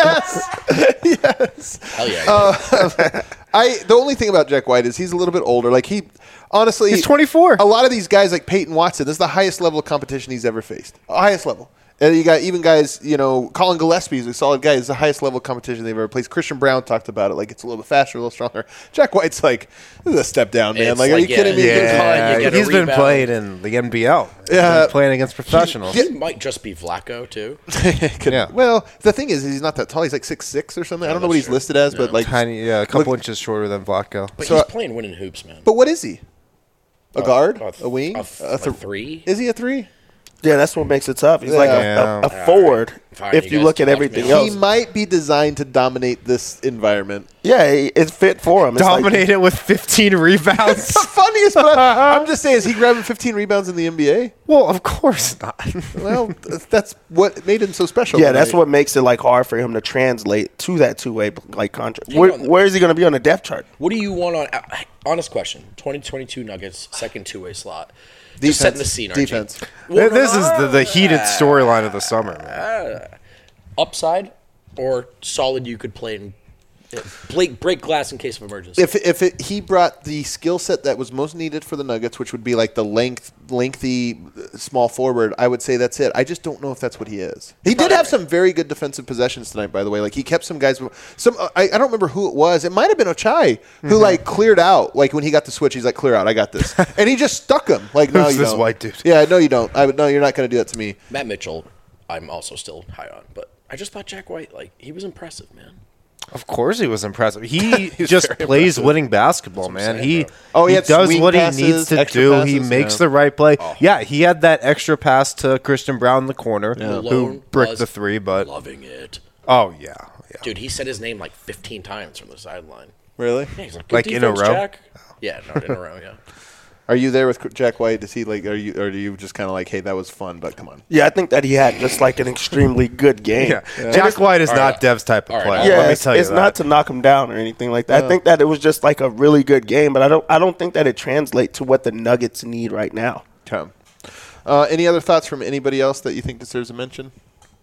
Yes. yes. Hell yeah. Uh, I the only thing about Jack White is he's a little bit older. Like he, honestly, He's twenty-four. A lot of these guys, like Peyton Watson, this is the highest level of competition he's ever faced. Highest level. And you got even guys, you know, Colin Gillespie is a solid guy. It's the highest level of competition they've ever played. Christian Brown talked about it, like it's a little bit faster, a little stronger. Jack White's like, this is a step down, man. It's Like, are like, you kidding me? yeah, Yeah, you get a he's been rebound. playing in the N B L. He's Yeah. been playing against professionals. He might just be Vlaco too. Could- Yeah. Well, the thing is, he's not that tall. He's like six six or something. I don't know what he's that's true. listed as, but No. like, Tiny, yeah, a couple Look- inches shorter than Vlaco. But So, he's uh, playing winning hoops, man. but what is he? A guard? a A, th- wing? a th- A a th- three? Is he a three? Yeah, that's what makes it tough. He's like a, Yeah. a, a forward. Fine, if you you guys look at talk to everything me. else, He might be designed to dominate this environment. yeah, it- it's fit for him. It's like- Dominate it with fifteen rebounds. The funniest, but I, I'm just saying, is he grabbing fifteen rebounds in the N B A? Well, of course not. Well, th- that's what made him so special. yeah, that's tonight. what makes it like hard for him to translate to that two way like contract. Hang Where, on. where is he going to be on the depth chart? What do you want on? uh, Honest question. twenty twenty-two Nuggets second two way slot. Defense. Just setting the scene. Archie. Defense. Well, no, this no, is the, the heated storyline of the summer, man. upside or solid. You could play in break break glass in case of emergency. If if it, he brought the skill set that was most needed for the Nuggets, which would be like the length, lengthy, uh, small forward, I would say that's it. I just don't know if that's what he is. He did have some very good defensive possessions tonight, by the way. Like he kept some guys. Some uh, I, I don't remember who it was. It might have been Ochai who Mm-hmm. like cleared out. Like when he got the switch, he's like, "Clear out, I got this," and he just stuck him. Like, no, Who's you this don't. white dude? Yeah, no, you don't. I would no, you're not going to do that to me. Matt Mitchell, I'm also still high on, but I just thought Jack White, like he was impressive, man. Of course, he was impressive. He just plays winning basketball, man. saying, He bro. Oh, he he had does swing what passes, he needs to extra do. he passes, makes yeah. the right play. Oh. Yeah, he had that extra pass to Christian Brown in the corner, who Malone bricked was the three. But Loving it, oh yeah, yeah. dude. He said his name like fifteen times from the sideline. Really? Yeah, he's like, Good Like in a defense, row? Jack. Yeah, no, in a row. Yeah. Are you there with Jack White? Does he like? Are you? Or do you just kind of like, hey, that was fun, but come on. Yeah, I think that he had just like an extremely good game. Yeah. Jack White is All not right. Dev's type of All right. player. Yeah, Let me it's, tell you it's that. not to knock him down or anything like that. I think that it was just like a really good game, but I don't I don't think that it translates to what the Nuggets need right now. Okay. Uh, any other thoughts from anybody else that you think deserves a mention?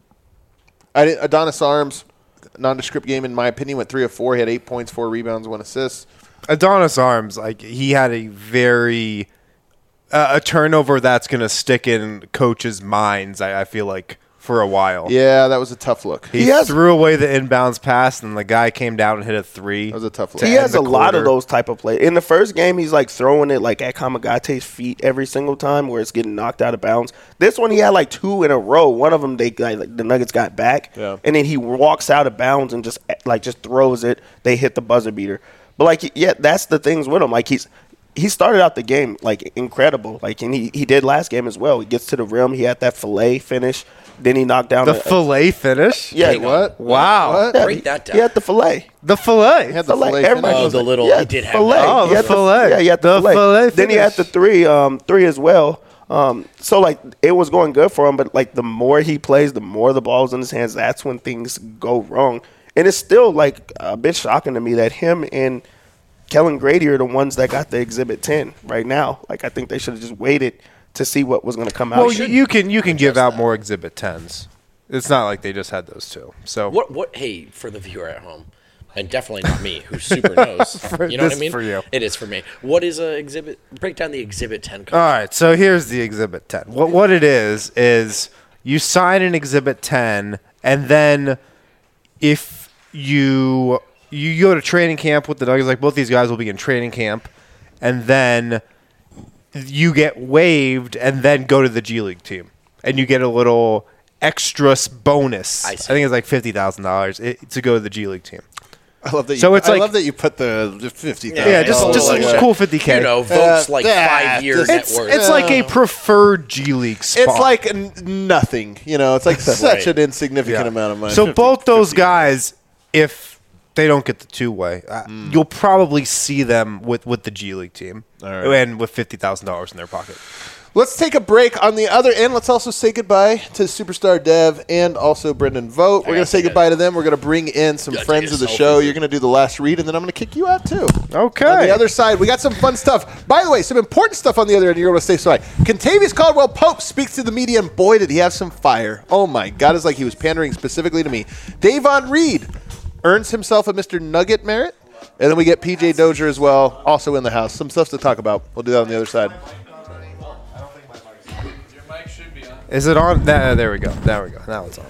I didn't, Adonis Arms, nondescript game in my opinion, went three of four. He had eight points, four rebounds, one assist. Adonis Arms, like he had a very uh, a turnover that's going to stick in coaches' minds. I, I feel like for a while. Yeah, that was a tough look. He, He has- threw away the inbounds pass, and the guy came down and hit a three. That was a tough look. to He end has the a lot of quarter. those type of plays. In the first game, he's like throwing it like at Kamagate's feet every single time, where it's getting knocked out of bounds. This one, he had like two in a row. One of them, they like, the Nuggets got back, Yeah. and then he walks out of bounds and just like just throws it. They hit the buzzer beater. But like, yeah, that's the things with him. Like he's he started out the game like incredible. Like and he, he did last game as well. He gets to the rim. He had that fillet finish. Then he knocked down The a- fillet finish? Yeah, Hang on. What? Wow. What? Yeah, Break he- that down. He had the fillet. The fillet. He had the Fillet. fillet Everybody finish. Oh, was the like, little- yeah, he did have fillet. that. Oh, He the had fillet. Yeah, he had the, The fillet. fillet Then he had the finish. three, um, three as well. Um, so like it was going good for him, but like the more he plays, the more the ball's in his hands. That's when things go wrong, and it's still like a bit shocking to me that him and Kellen Grady are the ones that got the Exhibit ten right now. Like I think they should have just waited to see what was going to come out. Well, you, you can you can give out more Exhibit tens. It's not like they just had those two. So What? What? Hey, for the viewer at home, and definitely not me, who super knows. you know what this I mean? for you. It is for me. What is a exhibit? Break down the Exhibit ten. All right, so here's the Exhibit ten. What what it is is you sign an Exhibit ten, and then if you you go to training camp with the Nuggets. Like both these guys will be in training camp, and then you get waived, and then go to the G League team, and you get a little extra bonus. I, I think it's like fifty thousand dollars to go to the G League team. I love that. You, so it's I like, love that you put the fifty. Yeah, yeah just oh, just like a cool fifty k. You know, votes uh, like uh, five years it's, net worth. It's like a preferred G League spot. It's like n- nothing. You know, it's like such Right. an insignificant Yeah. amount of money. So fifty, both those fifty. guys, if they don't get the two way, uh, Mm. you'll probably see them with, with the G League team, All right. and with fifty thousand dollars in their pocket. Let's take a break. On the other end, let's also say goodbye to Superstar Dev and also Brendan Vogt. We're going to say goodbye to them. We're going to bring in some Gotta friends take of the a show. selfie. You're going to do the last read, and then I'm going to kick you out, too. Okay. On the other side, we got some fun stuff. By the way, some important stuff on the other end. You're going to stay so high. Contavious Caldwell Pope speaks to the media, and boy, did he have some fire. Oh, my God. It's like he was pandering specifically to me. Davon Reed earns himself a Mister Nugget merit. And then we get P J Dozier as well, also in the house. Some stuff to talk about. We'll do that on the other side. Is it on? That, there we go. There we go. Now it's on.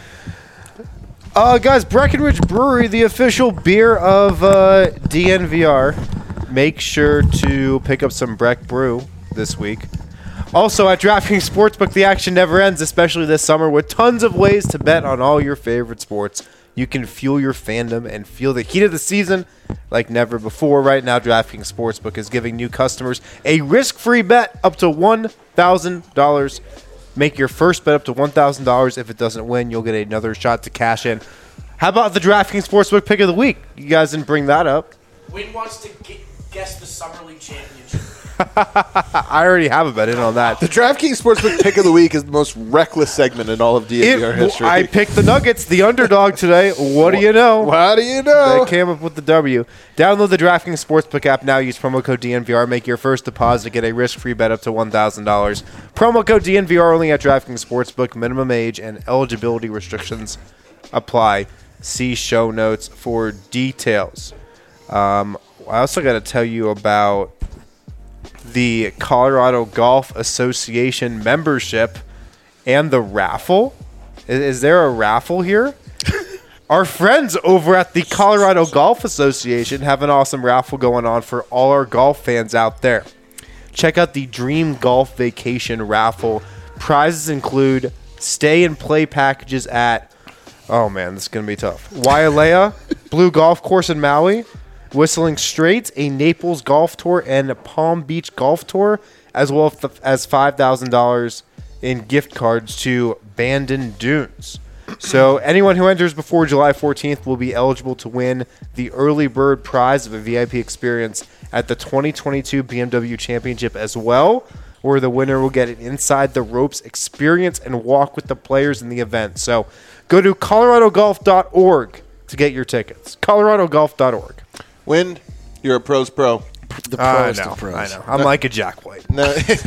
Uh, guys, Breckenridge Brewery, the official beer of uh, D N V R. Make sure to pick up some Breck Brew this week. Also, at DraftKings Sportsbook, the action never ends, especially this summer, with tons of ways to bet on all your favorite sports. You can fuel your fandom and feel the heat of the season like never before. Right now, DraftKings Sportsbook is giving new customers a risk-free bet up to one thousand dollars. Make your first bet up to one thousand dollars. If it doesn't win, you'll get another shot to cash in. How about the DraftKings Sportsbook pick of the week? You guys didn't bring that up. Win wants to get, guess the Summer League championship. I already have a bet in on that. The DraftKings Sportsbook pick of the week is the most reckless segment in all of D N V R It- history. I picked the Nuggets, the underdog today. What do you know? How do you know? They came up with the W. Download the DraftKings Sportsbook app now. Use promo code D N V R. Make your first deposit to get a risk-free bet up to one thousand dollars. Promo code D N V R only at DraftKings Sportsbook. Minimum age and eligibility restrictions apply. See show notes for details. Um, I also got to tell you about the Colorado Golf Association membership and the raffle. Is, is there a raffle here? Our friends over at the Colorado Golf Association have an awesome raffle going on for all our golf fans out there. Check out the Dream Golf Vacation raffle. Prizes include stay and play packages at, oh man, this is going to be tough, Wailea, Blue Golf Course in Maui, Whistling Straits, a Naples golf tour, and a Palm Beach golf tour, as well as five thousand dollars in gift cards to Bandon Dunes. So anyone who enters before July fourteenth will be eligible to win the early bird prize of a V I P experience at the twenty twenty-two B M W Championship as well, where the winner will get an inside the ropes experience and walk with the players in the event. So go to colorado golf dot org to get your tickets. colorado golf dot org. Win, you're a pro's pro. The I pros, know, the pros. I know. I'm like a Jack White. No, This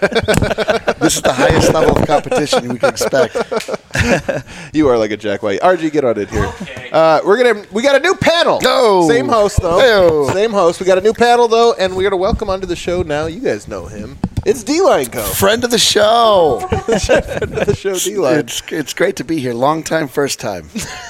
is the highest level of competition we can expect. you are like a Jack White. R G, get on it here. Uh, we're gonna we got a new panel. Go. Same host though. Hey-o. Same host. We got a new panel though, and we're gonna welcome onto the show now. You guys know him. It's D-Line Co. Friend of the show. Friend of the show, D-Line. It's it's great to be here. Long time, first time.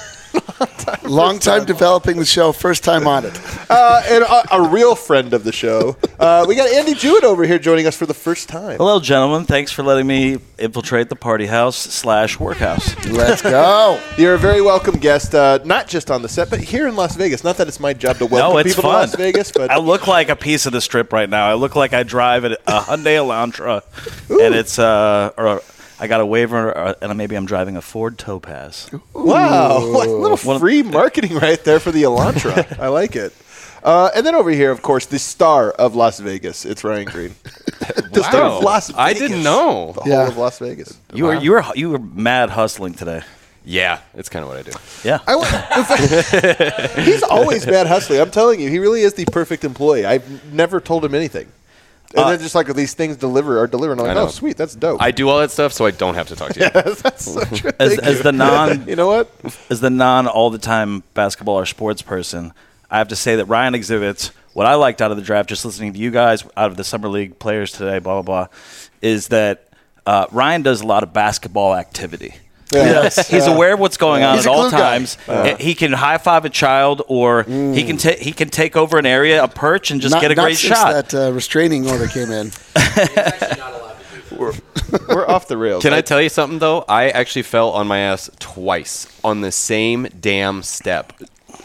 Long time developing the show, first time on it. Uh, and a, a real friend of the show. Uh, we got Andy Jewett over here joining us for the first time. Hello, gentlemen. Thanks for letting me infiltrate the party house slash workhouse. Let's go. You're a very welcome guest, uh, not just on the set, but here in Las Vegas. Not that it's my job to welcome No, it's people fun. to Las Vegas, but I look like a piece of the strip right now. I look like I drive a, a Hyundai Elantra, and it's uh, or I got a waiver, or, and maybe I'm driving a Ford Topaz. wow, like a little One- free marketing right there for the Elantra. I like it. Uh, and then over here, of course, the star of Las Vegas. It's Ryan Green. The star of Las Vegas. I didn't know. The Yeah. whole of Las Vegas. You were you were you were mad hustling today. Yeah, it's kind of what I do. Yeah. I wa- in fact, he's always mad hustling. I'm telling you, he really is the perfect employee. I've never told him anything. And Uh, then just like these things deliver are delivering. I'm I like, know. oh, sweet, that's dope. I do all that stuff, so I don't have to talk to you. That's such a As, thank as you. the non You know what? as the non all the time basketball or sports person, I have to say that Ryan exhibits what I liked out of the draft. Just listening to you guys out of the summer league players today, blah blah blah, is that uh, Ryan does a lot of basketball activity. Yes. He's aware of what's going on He's at a all glue guy. times. He can high five a child, or he can ta- he can take over an area, a perch, and just not, get a not great since shot. that uh, restraining order came in. He's actually not allowed to do that. We're off the rails. Can I tell you something though? I actually fell on my ass twice on the same damn step.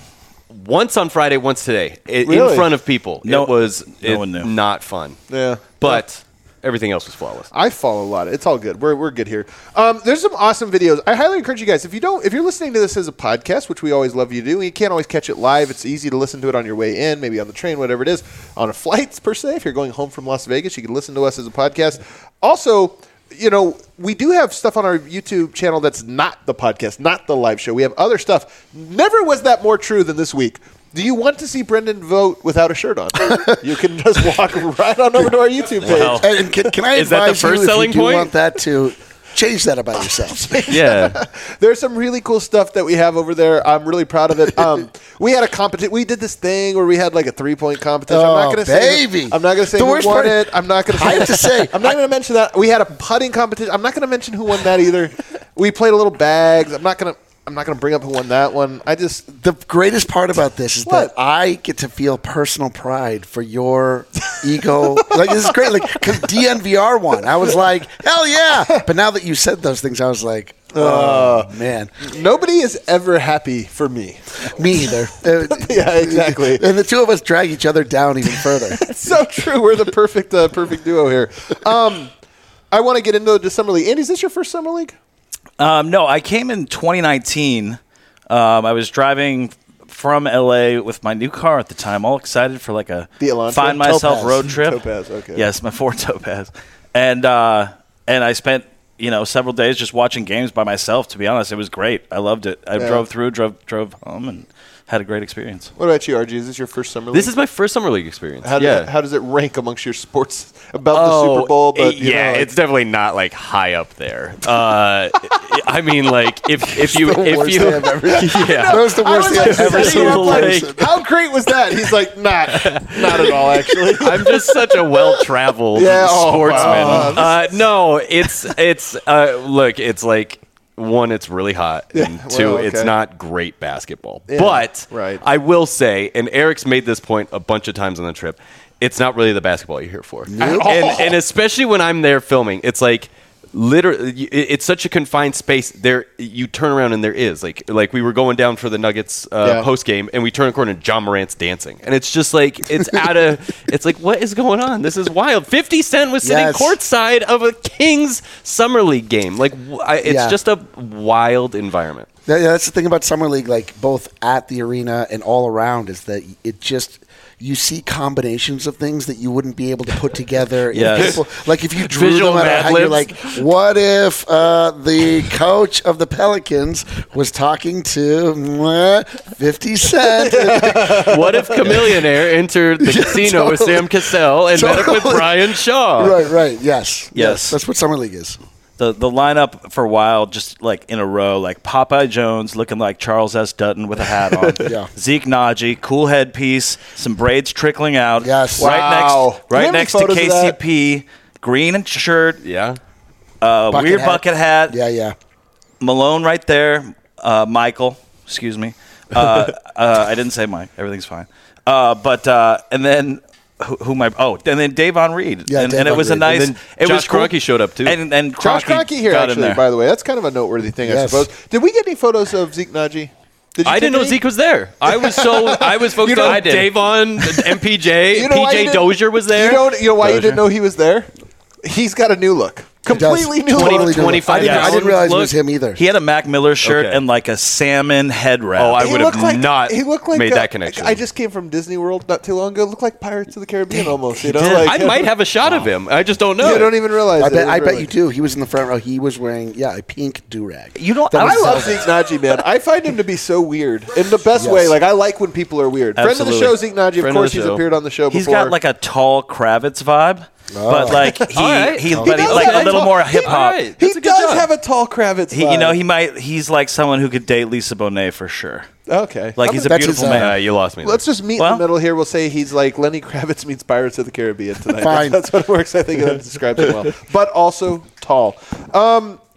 Once on Friday, once today, I- Really? in front of people. No- it was no it- one knew. not fun. Yeah. But everything else was flawless. I follow a lot. It's all good. We're, we're good here. Um, there's some awesome videos. I highly encourage you guys, if you don't, if you're listening to this as a podcast, which we always love you to do, and you can't always catch it live. It's easy to listen to it on your way in, maybe on the train, whatever it is, on a flight per se. If you're going home from Las Vegas, you can listen to us as a podcast. Also, you know, we do have stuff on our YouTube channel that's not the podcast, not the live show. We have other stuff. Never was that more true than this week. Do you want to see Brendan vote without a shirt on? You can just walk right on over to our YouTube page. Well, And, and can, can I Is that the advise first you, selling if you do point? want that, to change that about yourself? Yeah. There's some really cool stuff that we have over there. I'm really proud of it. Um, we had a competition. We did this thing where we had like a three point competition. I'm Oh, not going to say. baby. I'm not going to say The who worst won part- it. I'm not going to I say. have to say, I'm not going to mention that. We had a putting competition. I'm not going to mention who won that either. We played a little bags. I'm not going to. I'm not going to bring up who won that one. I just. The greatest part about this is What? that I get to feel personal pride for your ego. Like, this is great. Like, because D N V R won. I was like, hell yeah. But now that you said those things, I was like, oh, man. Nobody is ever happy for me. Me either. Uh, Yeah, exactly. And the two of us drag each other down even further. So true. We're the perfect, uh, perfect duo here. Um, I want to get into the summer league. Andy, is this your first summer league? Um, no, I came in twenty nineteen. Um, I was driving from L A with my new car at the time, all excited for like a The Elantra? find myself Topaz. road trip. Topaz, okay. Yes, my Ford Topaz, and uh, and I spent you know several days just watching games by myself. To be honest, it was great. I loved it. I Yeah. drove through, drove drove home, and had a great experience. What about you, R G? Is this your first summer league? This is my first summer league experience. How, yeah. does, how does it rank amongst your sports about the Oh, Super Bowl? But you yeah, know, like- it's definitely not like high up there. Uh, I mean, like if if you the if worst you thing I've ever- yeah. That was the I worst was thing like I've ever setting seen. him in up like, person. how great was that? He's like, not, not at all, actually. I'm just such a well-traveled Yeah, oh, sportsman. wow. Uh, no, it's it's uh, look, it's like one, it's really hot, and well, two, okay. it's not great basketball. Yeah, but right. I will say, and Eric's made this point a bunch of times on the trip, it's not really the basketball you're here for, and, and especially when I'm there filming, it's like. Literally, it- it's such a confined space. There, you turn around and there is like, like we were going down for the Nuggets uh, Yeah. post game, and we turn a corner and John Morant's dancing, and it's just like it's out of. It's like what is going on? This is wild. Fifty Cent was sitting Yes. courtside of a Kings summer league game. Like wh- I, it's Yeah. just a wild environment. Yeah, yeah, that's the thing about summer league, like both at the arena and all around, is that it just you see combinations of things that you wouldn't be able to put together. in Yes. people. Like if you drew Visual them out, Mad how you're Libs. like, what if uh, the coach of the Pelicans was talking to mwah, Fifty Cent? What if Chameleonaire entered the casino with totally. Sam Cassell and met up with Totally. Brian Shaw? right, right, yes, Yes. That's what summer league is. The the lineup for a while, just like in a row, like Popeye Jones looking like Charles S. Dutton with a hat on. Yeah. Zeke Naji, cool headpiece, some braids trickling out. Yes. Right Wow. next, Do you have right any next to photos of K C that? P, green and shirt, Yeah. uh, Bucket weird hat. bucket hat. Yeah, yeah. Malone right there. Uh, Michael, excuse me. Uh, uh, I didn't say Mike. Everything's fine. Uh, but uh, and then who, who am I? Oh, and then Davon Reed. Yeah, and, and it Davon was a Reed. nice. And then it Josh was cool. Kroenke showed up, too. And and Josh Kroenke Kroenke here, got in actually, there. by the way. That's kind of a noteworthy thing, I Yes. suppose. Did we get any photos of Zeke Naji? Did you I didn't take know any? Zeke was there. I was so I was focused You know- on I did. Davon, M P J, You know why you P J didn't- Dozier was there. You know, you know why you Dozier. didn't know he was there? He's got a new look. Completely new Totally look. new. twenty-five I didn't, I didn't gallons realize it look. was him either. He had a Mac Miller shirt Okay. and like a salmon head wrap. Oh, I He would have looked like- not he looked like made uh, that connection. I just came from Disney World not too long ago. Looked like Pirates of the Caribbean almost. You know, did. like I might have a shot of him. I just don't know. You don't even realize. I it. bet, It was I bet really- you do. He was in the front row. He was wearing, yeah, a pink do-rag. You know, That I was I love Zelda. Zeke Naji, man. I find him to be so weird in the best Yes. way. Like I like when people are weird. Friend of the Absolutely. show, Zeke Naji. Of Friend of course, the he's show. appeared on the show he's before. got like a tall Kravitz vibe, but like he, All right. he, He but he, does like have a a little tall- more he- hip hop. all right. he That's a good does job. have a tall Kravitz. He, you know, vibe. he might. He's like someone who could date Lisa Bonet for sure. okay. Like I'm he's a That's beautiful his, uh, man. Uh, you lost me. there. Let's just meet in Well- the middle here. We'll say he's like Lenny Kravitz meets Pirates of the Caribbean tonight. Fine. That's, that's what it works. I think that describes him well. But also tall. Um,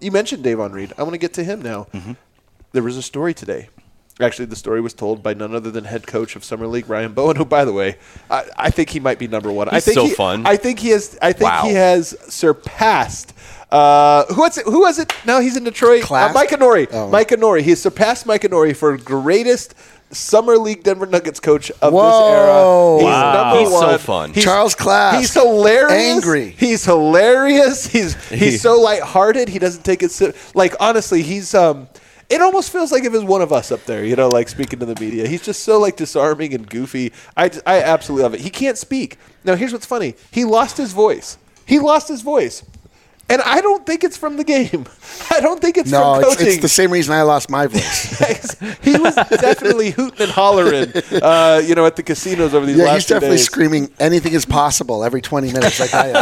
you mentioned Davon Reed. I want to get to him now. Mm-hmm. There was a story today. Actually, the story was told by none other than head coach of Summer League, Ryan Bowen, who, by the way, I, I think he might be number one. I He's think so he, fun. I think he has. I think Wow. he has surpassed. Uh, who was it? Who was it? Now he's in Detroit. Class? Uh, Mike Nori. Oh. Mike Nori. He has surpassed Mike Nori for greatest Summer League Denver Nuggets coach of Whoa. this era. He's Wow. number He's so one. fun. He's- Charles Class. He's hilarious. Angry. He's hilarious. He's he's so lighthearted. He doesn't take it si- like honestly. He's um. It almost feels like if it was one of us up there, you know, like speaking to the media. He's just so like disarming and goofy. I, just- I absolutely love it. He can't speak. Now here's what's funny. He lost his voice. He lost his voice. And I don't think it's from the game. I don't think it's No, from it's, coaching. it's the same reason I lost my voice. He was definitely hooting and hollering, uh, you know, at the casinos over these Yeah, last he's few definitely days. screaming anything is possible every twenty minutes like I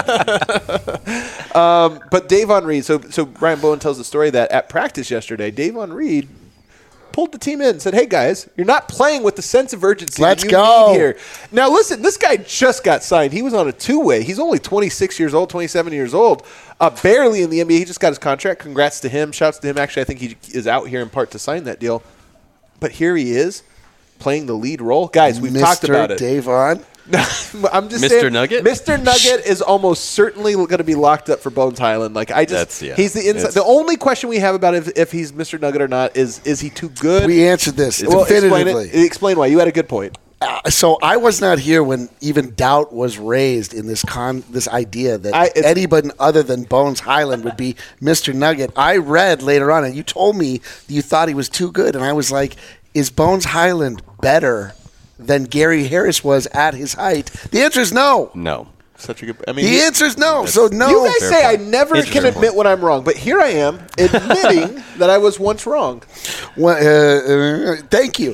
am. But Davon Reed, so so Ryan Bowen tells the story that at practice yesterday, Davon Reed pulled the team in and said, hey, guys, you're not playing with the sense of urgency Let's that you go. need here. Now, listen, this guy just got signed. He was on a two-way. He's only twenty-six years old, twenty-seven years old, uh, barely in the N B A. He just got his contract. Congrats to him. Shouts to him. Actually, I think he is out here in part to sign that deal. But here he is playing the lead role. Guys, we've talked Mister about it. Davon. I'm just Mister saying, Nugget? Mister Nugget is almost certainly going to be locked up for Bones Highland. Like I just, That's- yeah. he's the inside. It's- The only question we have about if, if he's Mister Nugget or not is is he too good? We answered this well, explain definitively. it. Explain why. You had a good point. Uh, so I was not here when even doubt was raised in this con this idea that I- it's- anybody other than Bones Highland would be Mister Nugget. I read later on, and you told me that you thought he was too good, and I was like, is Bones Highland better than Gary Harris was at his height? The answer is no. No. Such a good. I mean, The he- answer is no. So no. you guys Fair say I point. never It's a can fair admit point. when I'm wrong, but here I am admitting that I was once wrong. Well, uh, uh, thank you.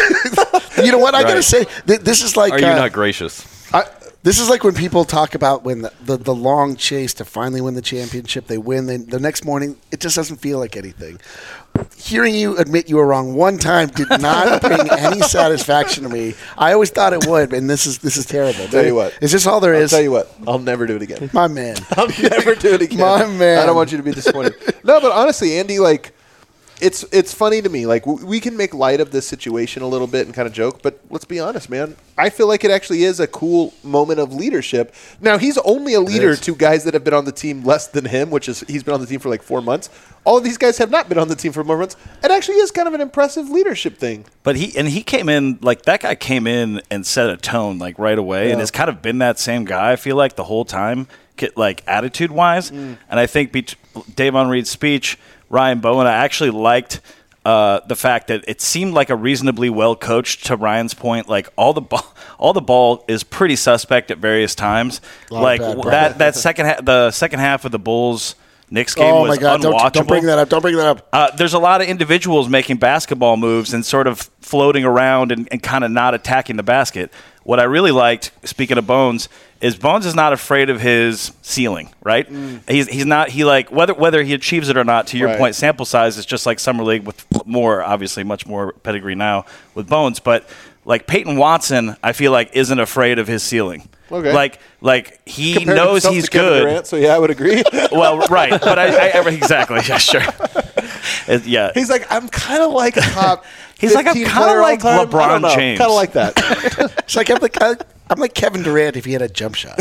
You know what I gotta Right. say? Th- This is like Are you uh, not gracious? I, This is like when people talk about when the, the, the long chase to finally win the championship, they win. They, the next morning, it just doesn't feel like anything. Hearing you admit you were wrong one time did not bring any satisfaction to me. I always thought it would, and this is this is terrible. Tell you what. Is this all there I'll is? tell you what. I'll never do it again. My man. I'll never do it again. My man. I don't want you to be disappointed. No, but honestly, Andy, like, it's it's funny to me. Like, w- we can make light of this situation a little bit and kind of joke, but let's be honest, man. I feel like it actually is a cool moment of leadership. Now, he's only a leader to guys that have been on the team less than him, which is he's been on the team for like four months. All of these guys have not been on the team for more months. It actually is kind of an impressive leadership thing. But he and he came in like that guy came in and set a tone like right away, and has kind of been that same guy. I feel like the whole time, get, like attitude wise. And I think bet- Davon Reed's speech, Ryan Bowen, I actually liked uh, the fact that it seemed like a reasonably well coached. To Ryan's point, like all the ball, all the ball is pretty suspect at various times. Lot of Like bad w- that that second ha- the second half of the Bulls Knicks game Oh was my God! unwatchable. Don't, don't bring that up. Don't bring that up. Uh, there's a lot of individuals making basketball moves and sort of floating around and, and kind of not attacking the basket. What I really liked, speaking of Bones, is Bones is not afraid of his ceiling, right? He's he's not he like whether whether he achieves it or not. To your Right. point, sample size is just like summer league with more, obviously, much more pedigree now with Bones, but. Like Peyton Watson, I feel like isn't afraid of his ceiling. Okay. Like, like he Compared knows himself he's to Kevin good. Durant, so yeah, I would agree. Well, right, but I, I ever exactly, yeah, sure, It- yeah. He's like, I'm kind of like a top. He's like, I'm fifteen kinda player all like time. LeBron James. Kind of like that. It's like I'm like I- I'm like Kevin Durant if he had a jump shot.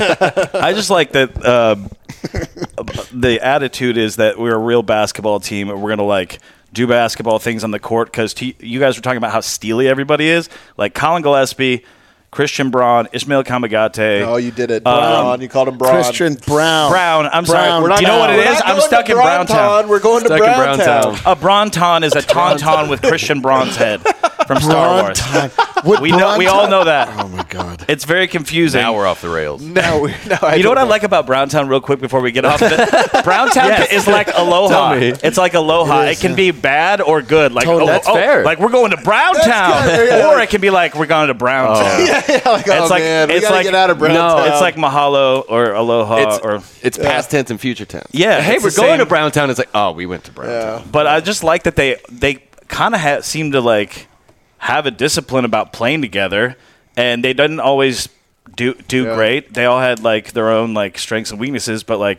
I just like that uh, the attitude is that we're a real basketball team and we're going to like do basketball things on the court because t- you guys were talking about how steely everybody is. Like Colin Gillespie, Christian Braun, Ishmael Kamagate. Oh, you did it. Um, Braun. You called him Braun. Christian Brown. Brown, I'm Brown. sorry. We're not Do you know what it We're is? not I'm going stuck to in Browntown. Browntown. We're going Stuck to in Browntown. Browntown. A Braunton is a tauntaun with Christian Braun's head from Star Wars. Would We know, we all know that. Oh my God. It's very confusing. Now we're off the rails. No, we- no. I You know what I don't like about Browntown, real quick, before we get off of it? Browntown is like Aloha. Tell me. It's like Aloha. It, It is, can yeah. be bad or good. Like Totally. oh, That's oh, fair. Like we're going to Browntown, good. Yeah, or like- it can be like we're going to Browntown. Yeah, yeah, like, oh It's like- man, we it's gotta like- get out of no, Browntown. It's like Mahalo or Aloha It's, or it's past tense and future tense. Yeah, Hey, it's we're the going same. to Browntown. It's like, oh, we went to Browntown. Yeah. But I just like that they they kind of ha- seem to like have a discipline about playing together, and they didn't always do do Yeah. great. They all had like their own like strengths and weaknesses, but like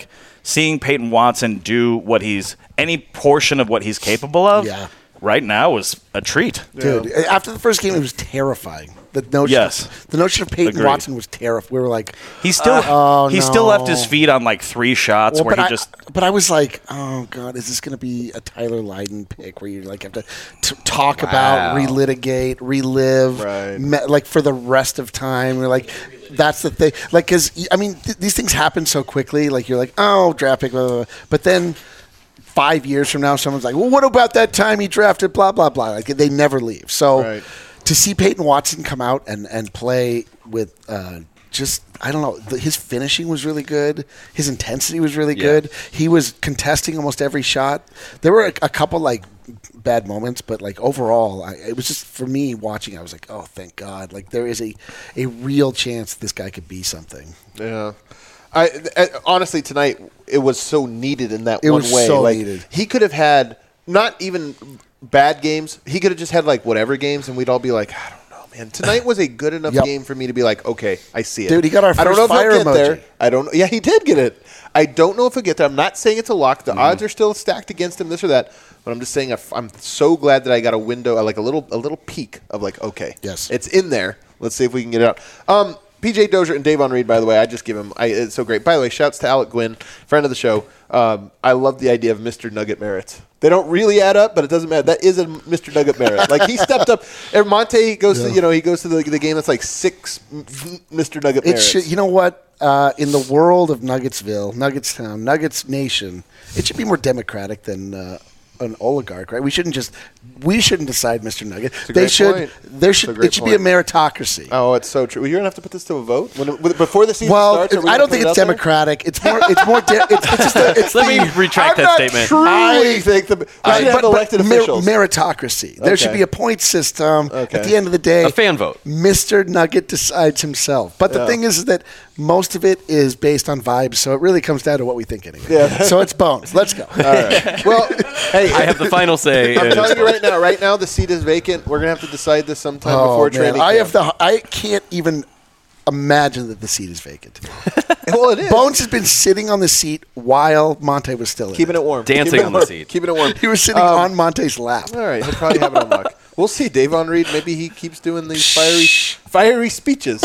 seeing Peyton Watson do what he's any portion of what he's capable of. Yeah. Right now is a treat. Dude, after the first game, it was terrifying. The notion, Yes. the notion of Peyton Agreed. Watson was terrifying. We were like, He still Uh, oh, he still no. left his feet on like three shots well, where but he I, just but I was like, oh god, is this going to be a Tyler Lydon pick where you like have to t- talk about, relitigate, relive, Right. me- like for the rest of time? You're like, that's the thing. Like, because I mean, th- these things happen so quickly. Like, you're like, oh, draft pick, blah, blah, blah. But then. Five years from now, someone's like, well, what about that time he drafted blah, blah, blah. Like, they never leave. So Right. to see Peyton Watson come out and, and play with uh, just, I don't know, the, his finishing was really good. His intensity was really Yeah. good. He was contesting almost every shot. There were a, a couple, like, bad moments, but, like, overall, I, it was just, for me, watching, I was like, oh, thank God. Like, there is a, a real chance this guy could be something. Yeah. I, I honestly tonight it was so needed in that It one was way. so like needed. he could have had not even bad games. He could have just had like whatever games, and we'd all be like, I don't know, man. Tonight was a good enough Yep. game for me to be like, okay, I see it. Dude, he got our I don't first know if fire he'll get emoji. there. I don't. Yeah, he did get it. I don't know if he'll get there. I'm not saying it's a lock. Mm-hmm. The odds are still stacked against him. This or that. But I'm just saying, if- I'm so glad that I got a window, like a little, a little peek of like, okay, Yes. it's in there. Let's see if we can get it out. Um, P J Dozier and Davon Reed, by the way, I just give him. I, it's so great. By the way, shouts to Alec Gwynn, friend of the show. Um, I love the idea of Mister Nugget merits. They don't really add up, but it doesn't matter. That is a Mister Nugget merit. Like he stepped up. And Monte goes to you know he goes to the, the game that's like six Mister Nugget It merits. should, you know what? Uh, in the world of Nuggetsville, Nuggetstown, Nuggets Nation, it should be more democratic than uh, an oligarch, right? We shouldn't just we shouldn't decide Mister Nugget. a They great should. point. There It's a should. great It should be a point. meritocracy. Oh, it's so true. Well, you're gonna have to put this to a vote when, when- before the season well, starts. are we I gonna don't put think it it's out there? democratic. It's more. It's more. De- it's, it's just. A, it's let the, me retract I'm that not statement. truly I- think the we Right, should have elected mer- officials. meritocracy. There should Okay. be a point system. Okay. At the end of the day, A fan vote. Mister Nugget decides himself. But the Yeah. thing is, is that most of it is based on vibes, so it really comes down to what we think anyway. Yeah. So it's bones. Let's go. All right. Well, hey, I have the final say. I'm and telling it's you right now. Right now, the seat is vacant. We're gonna have to decide this sometime Oh, before man. training. I camp. have the. I can't even imagine that the seat is vacant. Well, it is. Bones has been sitting on the seat while Monte was still in Keeping it warm. Dancing Keeping it on the warm. seat. Keeping it warm. He was sitting Um, on Monte's lap. All right, he'll probably have it on lock. We'll see. Davon Reed, maybe he keeps doing these fiery, fiery speeches.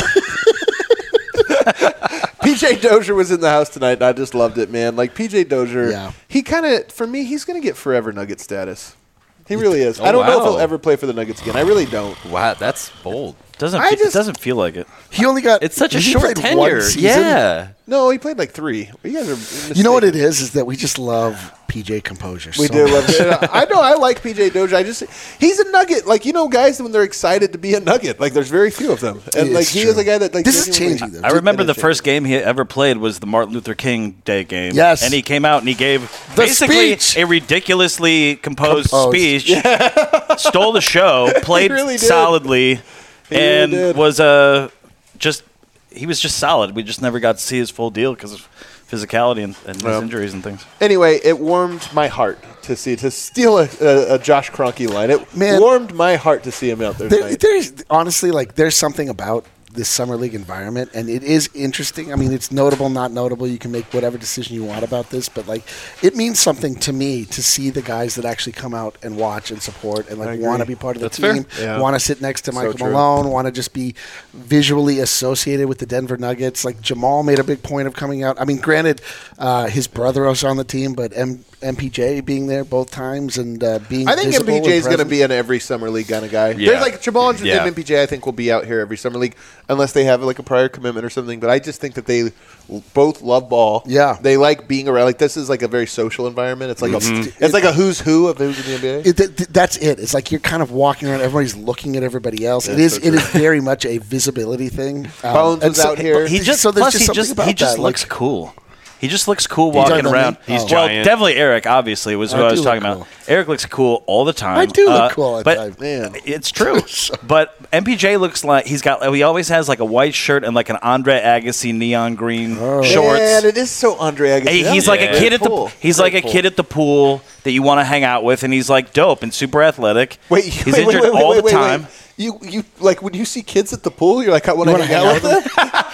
P J Dozier was in the house tonight, and I just loved it, man. Like P J Dozier, Yeah. he kind of, for me, he's going to get forever Nugget status. He really is. Oh, I don't know if wow. he'll ever play for the Nuggets again. I really don't. Wow, that's bold. Doesn't I fe- just- it doesn't feel like it. He only got. It's such a he short played one tenure. season. Yeah. No, he played like three. You guys are mistaken. You know what it is? Is that we just love P J composure. We so do much. love it. I know. I like P J Dozier. I just he's a Nugget. Like you know, guys when they're excited to be a Nugget. Like there's very few of them, and It's like he true. is a guy that like This is genuinely- changing, though. I remember It the is first game he ever played was the Martin Luther King Day game. Yes. And he came out and he gave The basically speech. a ridiculously composed, Composed. speech, stole the show, played really did. solidly, He really and did. was uh, just he was just solid. We just never got to see his full deal because of physicality and, and his Well. injuries and things. Anyway, it warmed my heart to see to steal a, a, a Josh Kroenke line. It Man. warmed my heart to see him out there There, tonight. there's honestly like there's something about this summer league environment, and it is interesting. I mean, it's notable, not notable. You can make whatever decision you want about this, but like it means something to me to see the guys that actually come out and watch and support and like agree. want to be part of the That's fair. team, Yeah. want to sit next to So Michael true. Malone, want to just be visually associated with the Denver Nuggets. Like Jamal made a big point of coming out. I mean, granted, uh, his brother was on the team, but M- MPJ being there both times and uh, being I think visible M P J is and going to present. be an every summer league kind of guy. Yeah. There's like Jamal and Yeah. M P J. I think will be out here every summer league unless they have like a prior commitment or something. But I just think that they both love ball. Yeah. they like being around. Like this is like a very social environment. It's like Mm-hmm. a it's like a who's who of who's in the N B A. It, th- th- that's it. It's like you're kind of walking around. Everybody's looking at everybody else. it That's is. so It is very much a visibility thing. Um, Bones and was out here. He just so there's plus just he something just about he just that, looks like- cool. He just looks cool talking walking about around. me? He's well, giant. definitely Eric. Obviously was who I I was do talking look about. cool. Eric looks cool all the time. I do look Uh, cool all the but time. Man. It's true. But M P J looks like he's got. He always has like a white shirt and like an Andre Agassi neon green shorts. Man, it is so Andre Agassi. Hey, That he's was like a a great kid at the pull. he's Great like a pull. kid at the pool that you want to hang out with, and he's like dope and super athletic. Wait, he's wait, injured wait, wait, all wait, the wait, time. wait. You you like when you see kids at the pool, you're like, I want You to wanna hang hang out with them.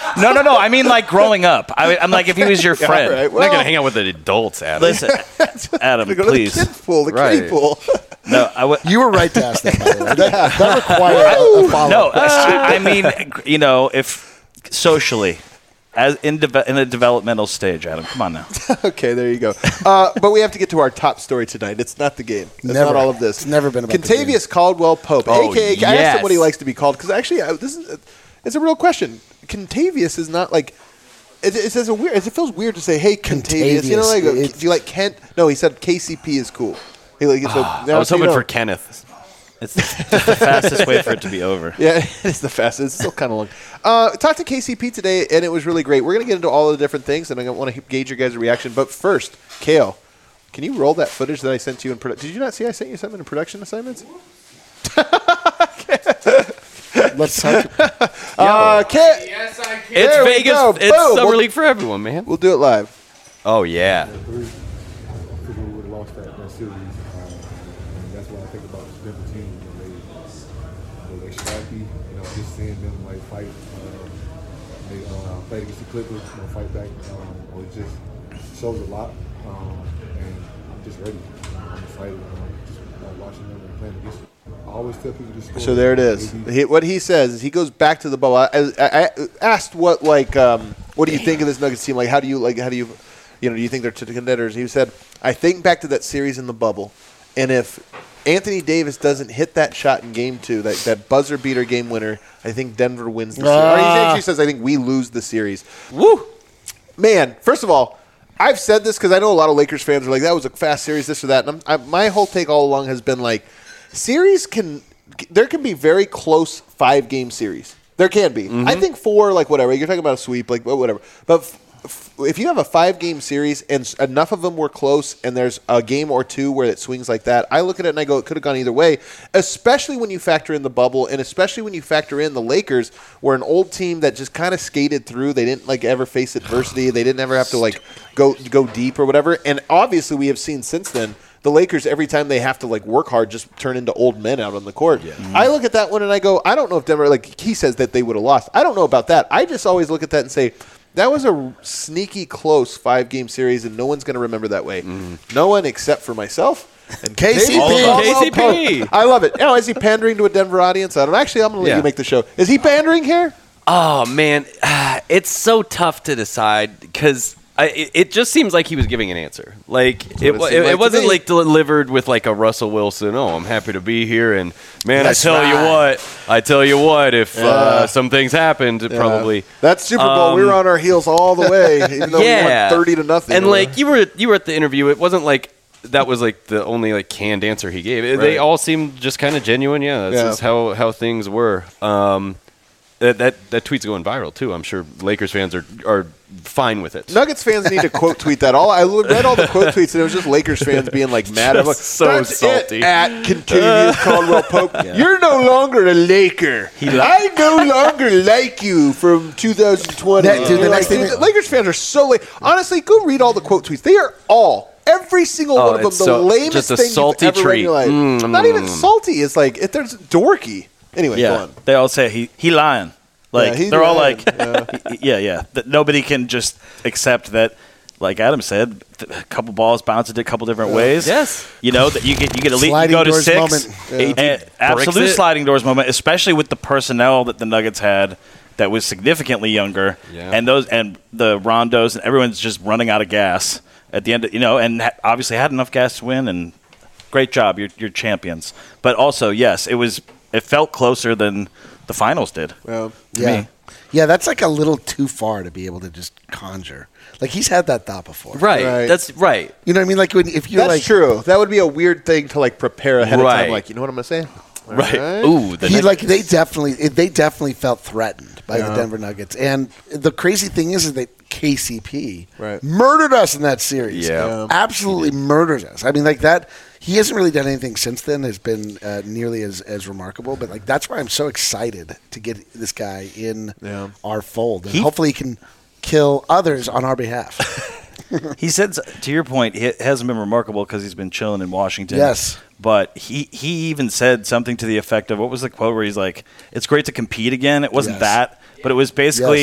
No, no, no. I mean, like growing up. I, I'm like, if he was your friend. All right, I'm not gonna hang out with the adults, Adam. Listen, Adam, Go to the please. kid pool, the Right. kiddie pool. No, I w- You were right to ask that, by the way. That, that required a, a follow-up no. question. I, I mean, you know, if socially, as in deve- in a developmental stage, Adam. Come on now. Okay, there you go. Uh, but we have to get to our top story tonight. It's not the game. It's Never. not all of this. It's never been about the Contavious Caldwell Pope, Oh, a k a. I asked him what he yes. likes to be called because actually, I, this is it's a real question. Contavious is not like. It, it says a weird. It feels weird to say, "Hey, Contavious." You know, like, Contavious. uh, do you like Kent? No, he said K C P is cool. He like, so, I now was so you hoping know. for Kenneth. It's the, it's the fastest way for it to be over. Yeah, it is the fastest. It's still kind of long. Uh, talked to K C P today, and it was really great. We're going to get into all the different things, and I want to gauge your guys' reaction. But first, Kale, can you roll that footage that I sent you in production? Did you not see I sent you something in production assignments? Let's talk. Uh, Kale, Yes, I can. It's There we Vegas. go. It's Boom. Summer We'll- League for everyone, man. we'll do it live. Oh yeah. three. I figured we would have lost that, that series. Um, and that's what I think about this Denver team. You know, they, you know, they scrappy. You know, just seeing them like fight. Um, they uh, played against the Clippers, you know, fight back. Um, it just shows a lot. Um, and I'm just ready. I'm excited. Um, just uh, watching them and playing against them. I always tell people to score. So there it is. He, what he says is he goes back to the bubble. I, I, I asked what like um, what do you think of this Nuggets team? Like how do you like how do you you know do you think they're to the contenders? He said I think back to that series in the bubble, and if Anthony Davis doesn't hit that shot in game two, that, that buzzer beater game winner, I think Denver wins the series. Or he Ah. actually says I think we lose the series. Woo, man! First of all, I've said this because I know a lot of Lakers fans are like that was a fast series, this or that. And I'm, I, my whole take all along has been like. Series can there can be very close five game series. There can be. I think four, like whatever. You're talking about a sweep, like whatever. But f- f- if you have a five game series and s- enough of them were close, and there's a game or two where it swings like that, I look at it and I go, it could have gone either way. Especially when you factor in the bubble, and especially when you factor in the Lakers were an old team that just kind of skated through. They didn't like ever face adversity. They didn't ever have to like go go deep or whatever. And obviously, we have seen since then. The Lakers, every time they have to like work hard, just turn into old men out on the court. I look at that one and I go, I don't know if Denver, like he says that they would have lost. I don't know about that. I just always look at that and say, that was a sneaky close five game series, and no one's going to remember that way. No one except for myself. And K C P. Caldwell K C P. Pope. I love it. Now, is he pandering to a Denver audience? I don't. Actually, I'm going to let Yeah. you make the show. Is he pandering here? Oh man, it's so tough to decide because it, it just seems like he was giving an answer. Like it, what it wa- seemed it, like it to wasn't me. like delivered with like a Russell Wilson. Oh, I'm happy to be here, and man, That's I tell you right. what, I tell you what, if uh, some things happened, it probably. That Super Bowl, we Um, were on our heels all the way, even though yeah, we won thirty to nothing. And like you were, you were at the interview. It wasn't like. That was like the only like canned answer he gave. They Right. all seemed just kind of genuine. Yeah, that's Yeah. just how, how things were. Um, that, that that tweet's going viral too. I'm sure Lakers fans are are fine with it. Nuggets fans need to quote tweet that. All I read all the quote tweets, and it was just Lakers fans being like mad. I'm like, Just so "That's salty." It, at Contavious Caldwell Pope, you're no longer a Laker. I no longer like you from two thousand twenty. That- dude, the You're next thing dude, that- the Lakers fans are so late. Honestly, go read all the quote tweets. They are all. Every single Oh, one of them, it's the so- lamest just a thing salty you've ever read in your life. treat. Mm. Not even salty. It's like it, there's dorky. Anyway, go Yeah, on. they all say he he lying. Like Yeah, he they're all lying. like, yeah, yeah. That nobody can just accept that. Like Adam said, th- a couple balls bounced a couple different ways. Yes. you know that you get you get a lead, you Sliding go to doors six. moment. Yeah. And absolute Bricks it. sliding doors moment, especially with the personnel that the Nuggets had that was significantly younger, Yeah. and those and the Rondos and everyone's just running out of gas at the end. Of, you know, and ha- obviously had enough gas to win. And great job, you're you're champions. But also, yes, it was. It felt closer than the finals did. Well, to Yeah. me. Yeah, that's like a little too far to be able to just conjure. Like he's had that thought before. Right. Right. That's right. You know what I mean? Like when if you're that's like true. That would be a weird thing to like prepare ahead of Right. time. Like, you know what I'm gonna say? All Right. Ooh, the he next- like they definitely they definitely felt threatened by the Denver Nuggets. And the crazy thing is, is that K C P Right. murdered us in that series. Yeah. Yeah. Absolutely murdered us. I mean, like that. He hasn't really done anything since then. Has been uh, nearly as, as remarkable. But like that's why I'm so excited to get this guy in Yeah. our fold, and He- hopefully he can kill others on our behalf. He said, to your point, it hasn't been remarkable because he's been chilling in Washington. Yes. But he, he even said something to the effect of, what was the quote where he's like, it's great to compete again. It wasn't Yes. that, but it was basically, Yes.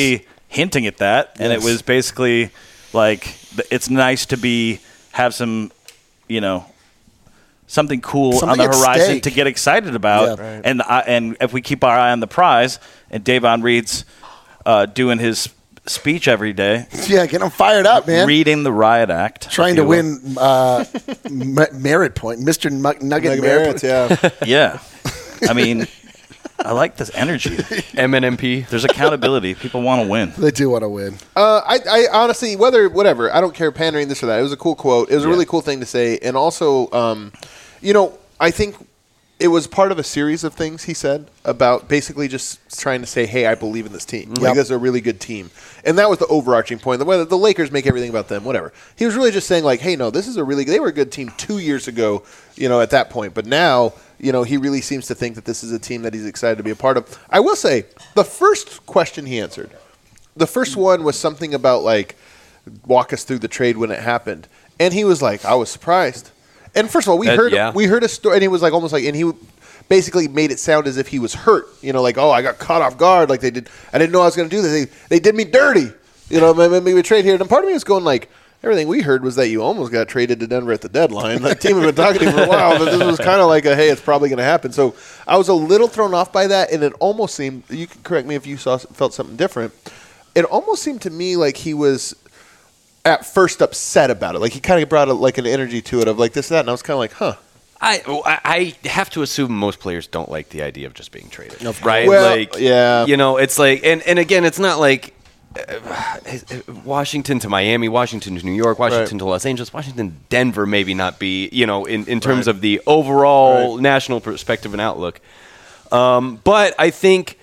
hinting at that, and Yes. it was basically like th- it's nice to be have some, you know, something cool Something on the at horizon stake. to get excited about. Yeah. Right. And I, and if we keep our eye on the prize, and Davon Reed's uh, doing his speech every day, Yeah, get them fired up, man. reading the Riot Act, Trying if to you will. win uh, m- merit point, Mister Nugget, Nugget merit. Merritt, yeah. Yeah, I mean, I like this energy. M N M P. There's accountability. People want to win. They do want to win. Uh, I, I honestly, whether whatever, I don't care pandering this or that. It was a cool quote. It was a really cool thing to say, and also, um, you know, I think it was part of a series of things he said about basically just trying to say, "Hey, I believe in this team. Like Yep. this is a really good team," and that was the overarching point. The whether the Lakers make everything about them, whatever. He was really just saying, like, "Hey, no, this is a really they were a good team two years ago, you know, at that point, but now." You know, he really seems to think that this is a team that he's excited to be a part of. I will say, the first question he answered, the first one was something about, like, walk us through the trade when it happened. And he was like, I was surprised. And first of all, we That- heard yeah. we heard a story, and he was like, almost like, and he basically made it sound as if he was hurt. You know, like, oh, I got caught off guard. Like, they did, I didn't know I was going to do this. They, they did me dirty. You know, maybe maybe we trade here. And part of me was going, like, everything we heard was that you almost got traded to Denver at the deadline. The team had been talking to you for a while, but this was kind of like a, hey, it's probably going to happen. So I was a little thrown off by that, and it almost seemed, you can correct me if you saw felt something different, it almost seemed to me like he was at first upset about it. Like he kind of brought a, like an energy to it of like this, that, and I was kind of like, huh. I I I have to assume most players don't like the idea of just being traded, Of right? Well, like, yeah. you know, it's like, and, and again, it's not like uh, Washington to Miami, Washington to New York, Washington Right. to Los Angeles, Washington, Denver, maybe not be, you know, in, in terms of the overall Right. national perspective and outlook. Um, but I think,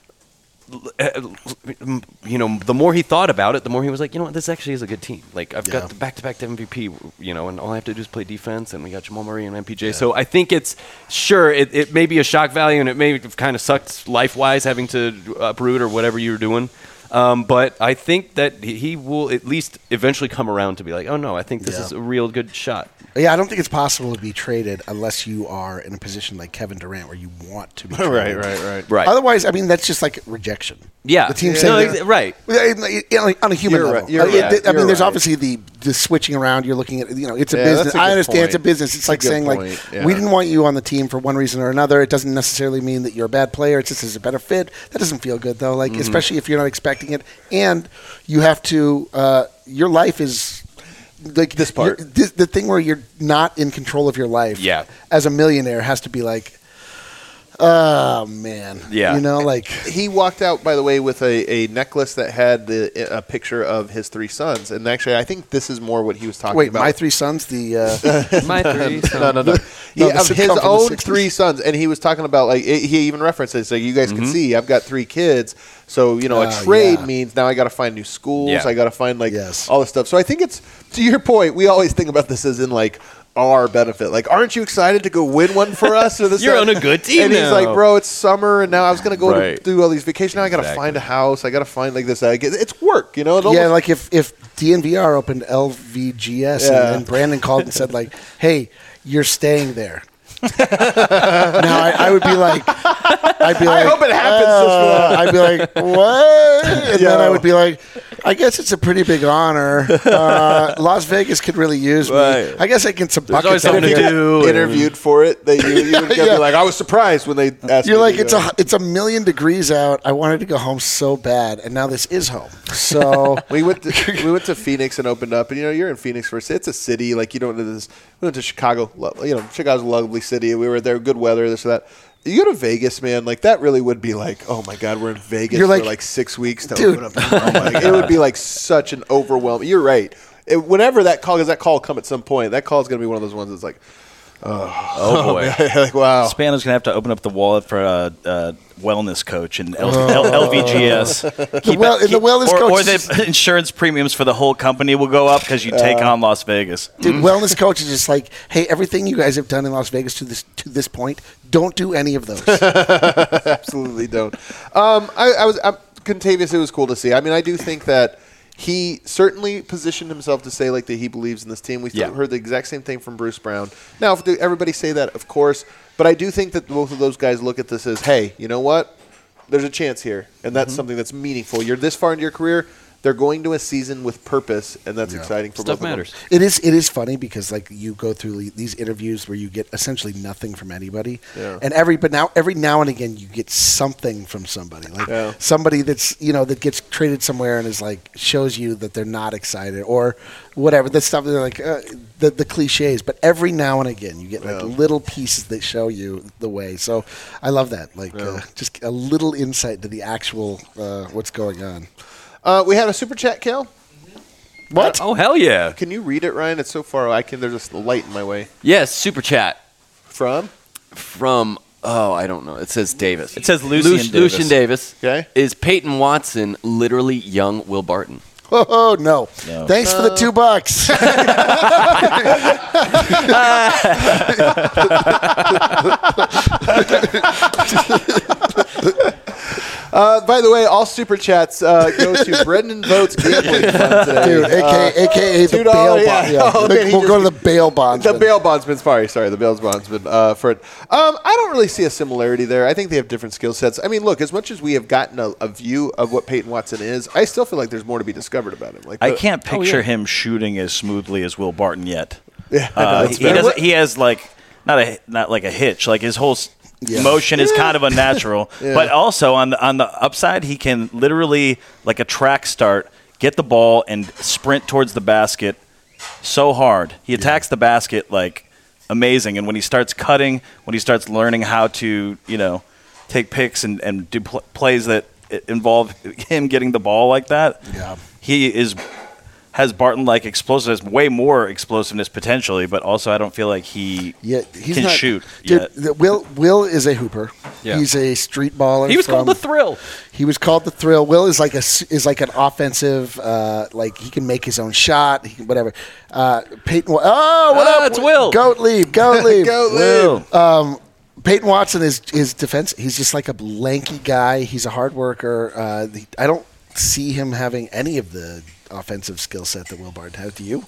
uh, you know, the more he thought about it, the more he was like, you know what, this actually is a good team. Like, I've Yeah. got the back-to-back M V P, you know, and all I have to do is play defense, and we got Jamal Murray and M P J. So I think it's, sure, it, it may be a shock value, and it may have kind of sucked life-wise having to uproot or whatever you were doing. Um, but I think that he he will at least eventually come around to be like, oh, no, I think this Yeah. is a real good shot. Yeah, I don't think it's possible to be traded unless you are in a position like Kevin Durant where you want to be traded. Right, right, right. Right. Otherwise, I mean, that's just like rejection. Yeah. The team Yeah. saying No, that- ex- right. Yeah, on a human You're level. right, you're Uh, it- right, I mean, you're there's right. obviously the, the switching around. You're looking at, you know, it's a Yeah, business. that's a I good understand it's a point. business. It's That's a like good saying, point, like, yeah. we didn't want you on the team for one reason or another. It doesn't necessarily mean that you're a bad player. It's just it's a better fit. That doesn't feel good, though, like, Mm-hmm. especially if you're not expecting it. And you have to, uh, your life is. Like This part. you're- this, the thing where you're not in control of your life, Yeah. as a millionaire, has to be like, oh man, Yeah. you know, like He walked out, by the way, with a, a necklace that had the, a picture of his three sons. And actually, I think this is more what he was talking wait, about. my three sons, the uh, My three. no, no, no. He, No, the of sitcom his from the own sixties. three sons, and he was talking about like it, he even referenced it. So you guys can see, I've got three kids. So you know, a Ah, trade yeah. means now I got to find new schools. Yeah. I got to find like Yes. all this stuff. So I think it's to your point. We always think about this as in like our benefit. Like, aren't you excited to go win one for us? Or this You're that? on a good team And he's now. like, bro, it's summer, and now I was gonna go Right. to do all these vacations. Now I got to Exactly. find a house. I got to find like this. I get, it's work, you know. It yeah, almost- like if if D N V R opened L V G S Yeah. and then Brandon called and said like, "Hey, you're staying there." now I, I would be like, I'd be like, hope it happens just for uh, I'd be like, what? And then I Yo. would be like, I guess it's a pretty big honor. Uh, Las Vegas could really use me. Right. I guess I can some buckets. always out something to there. do. and- interviewed for it. That you, you would Yeah. be like, I was surprised when they asked. You're me like, to it's go. a it's a million degrees out. I wanted to go home so bad, and now this is home. So We went to we went to Phoenix and opened up, and you know you're in Phoenix for it's a city like you don't know this. We went to Chicago, lo- you know Chicago's a lovely city. We were there, good weather, this or that. You go to Vegas, man, like that really would be like, oh my god, we're in Vegas You're for like, like six weeks to dude. open up. Oh my God. It would be like such an overwhelming. You're right. It, whenever that call, because that call will come at some point. That call is going to be one of those ones that's like, Oh, boy. like wow. Spano's gonna have to open up the wallet for a, a wellness coach and L- L- LVGS. Keep well- it- and the keep- wellness or, coach or is- the insurance premiums for the whole company will go up because you take on Las Vegas. Dude, wellness coach is just like, hey, everything you guys have done in Las Vegas to this to this point, don't do any of those. Absolutely don't. Um, I, I was I'm, Contavious. It was cool to see. I mean, I do think that he certainly positioned himself to say like that he believes in this team. We Yeah. heard the exact same thing from Bruce Brown. Now, if everybody say that, of course, but I do think that both of those guys look at this as, hey, you know what? there's a chance here, and that's something that's meaningful. You're this far into your career. They're going to a season with purpose, and that's exciting for Stuff both matters. of them. It is. It is funny because like you go through these interviews where you get essentially nothing from anybody, Yeah. and every but now every now and again you get something from somebody, like Yeah. somebody that's you know that gets traded somewhere and is like shows you that they're not excited or whatever. The stuff they're like uh, the the cliches, but every now and again you get like Yeah. little pieces that show you the way. So I love that, like uh, just a little insight to the actual uh, what's going on. Uh, we had a super chat, Kale. What? Oh, hell yeah. Can you read it, Ryan? It's so far. I can. There's a light in my way. Yes, super chat From? from, oh, I don't know. It says Davis. It says Lucian Luc- Davis. Lucian Davis. Okay. Is Peyton Watson literally young Will Barton? Oh no! No. Thanks for the two bucks. Uh, by the way, all super chats uh, go to Brendan Votes gambling fund today. Dude, aka, Uh, A K A the two bail dollars, bond. yeah. Yeah. Oh, man, he we'll go to just- the bail bonds. The bail bondsman, sorry, sorry, the bail bondsman uh, for it. Um, I don't really see a similarity there. I think they have different skill sets. I mean, look, as much as we have gotten a, a view of what Peyton Watson is, I still feel like there's more to be discovered about him. Like I the- can't picture him shooting as smoothly as Will Barton yet. Yeah, Uh, that's he, fair. doesn't, he has like not a not like a hitch. Like his whole s Yeah. motion is kind of unnatural. But also on the on the upside, he can literally like a track start, get the ball and sprint towards the basket so hard. He attacks the basket like amazing. And when he starts cutting, when he starts learning how to you know take picks and and do pl- plays that involve him getting the ball like that, Yeah. he is. Has Barton like explosiveness, way more explosiveness potentially, but also I don't feel like he Yeah, he's can not, shoot Dude, yet. the- Will Will is a hooper. Yeah. He's a street baller. He was called from- the Thrill. He was called the Thrill. Will is like a s- is like an offensive, uh, like he can make his own shot. He can, whatever. Uh, Peyton. Wa- Oh, what Ah, up? it's Will. Goat leave. Goat leave. Go Will. live. Peyton Watson is his defense. He's just like a lanky guy. He's a hard worker. Uh, he- I don't see him having any of the offensive skill set that Will Barton has. Do you?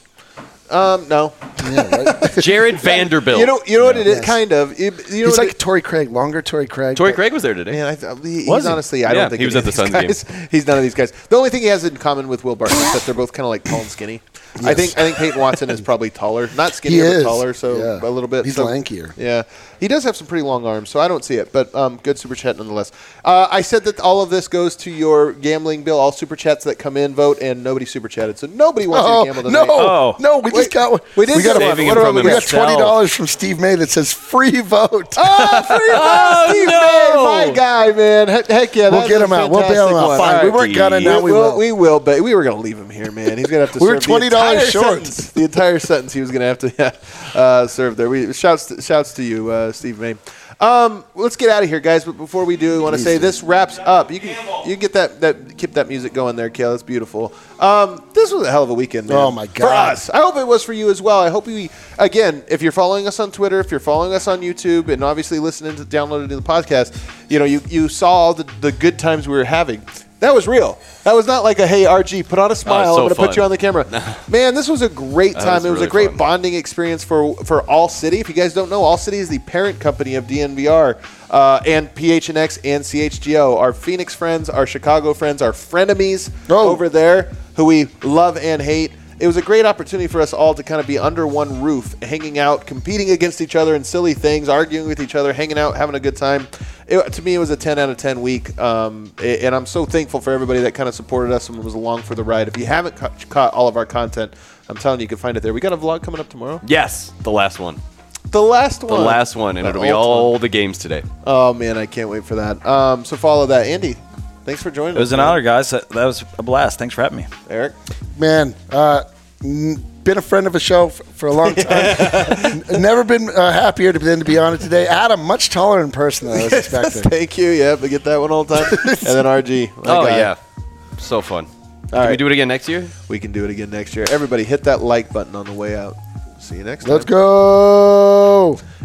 Um, no. Yeah, right. Jared Vanderbilt. You know, you know what it is. Yes. Kind of. You, you know He's what like Torrey Craig, longer Torrey Craig. Torrey but- Craig was there today. Man, I th- he, he's Was he? honestly, I Yeah, don't think he was any at the of Suns these guys- He's none of these guys. The only thing he has in common with Will Barton is that they're both kind of like tall and skinny. I think I think Peyton Watson is probably taller, not He skinnier, is. but taller, so Yeah. a little bit. He's so, lankier. Yeah, he does have some pretty long arms, so I don't see it. But um, good super chat nonetheless. Uh, I said that all of this goes to your gambling bill. All super chats that come in vote, and nobody super chatted, so nobody wants Oh, you to gamble tonight. no, Oh. no, we just got one. we did we got, get a, one. Saving What him about from we we got? got twenty dollars from Steve May that says free vote. Oh, free vote, Steve no. May, my guy, man. Heck, heck yeah, We'll that get is him a out. We'll bail him fantastic out. one. Fine. All We right. weren't gonna, now we will. will. We will, but we were going to leave him here, man. He's going to have to We were serve the twenty dollars entire short. sentence. The entire sentence he was going to have to yeah, uh, serve there. We shouts to, shouts to you, uh, Steve May. Um, let's get out of here, guys. But before we do, I want to say this wraps up. You can you can get that that keep that music going there, Kale. That's beautiful. Um, this was a hell of a weekend, man. Oh, my For God. us, I hope it was for you as well. I hope we again, if you're following us on Twitter, if you're following us on YouTube, and obviously listening to downloading the podcast, you know you you saw all the the good times we were having. That was real. That was not like a, hey, R G, put on a smile. so I'm going to put fun. you on the camera. Man, this was a great That time. was It was a really great fun. bonding experience for for All City. If you guys don't know, All City is the parent company of D N V R uh, and P H N X and C H G O. Our Phoenix friends, our Chicago friends, our frenemies Oh. over there who we love and hate. It was a great opportunity for us all to kind of be under one roof, hanging out, competing against each other in silly things, arguing with each other, hanging out, having a good time. It, to me, it was a ten out of ten week, um, a- and I'm so thankful for everybody that kind of supported us and was along for the ride. If you haven't ca- caught all of our content, I'm telling you, you can find it there. We got a vlog coming up tomorrow. Yes, the last one. The last The one. last one, and The it'll be ultimate. all the games today. Oh, man, I can't wait for that. Um, so follow that. Andy, thanks for joining us. It was an man. honor, guys. That, that was a blast. Thanks for having me. Eric? Man, uh, n- been a friend of a show f- for a long time. N- Never been uh, happier to, than to be on it today. Adam, much taller in person than I was expecting. Thank you. Yeah, but get that one all the time. And then R G. my Oh, guy. yeah. So fun. Can right. we do it again next year? We can do it again next year. Everybody hit that like button on the way out. See you next time. Let's go.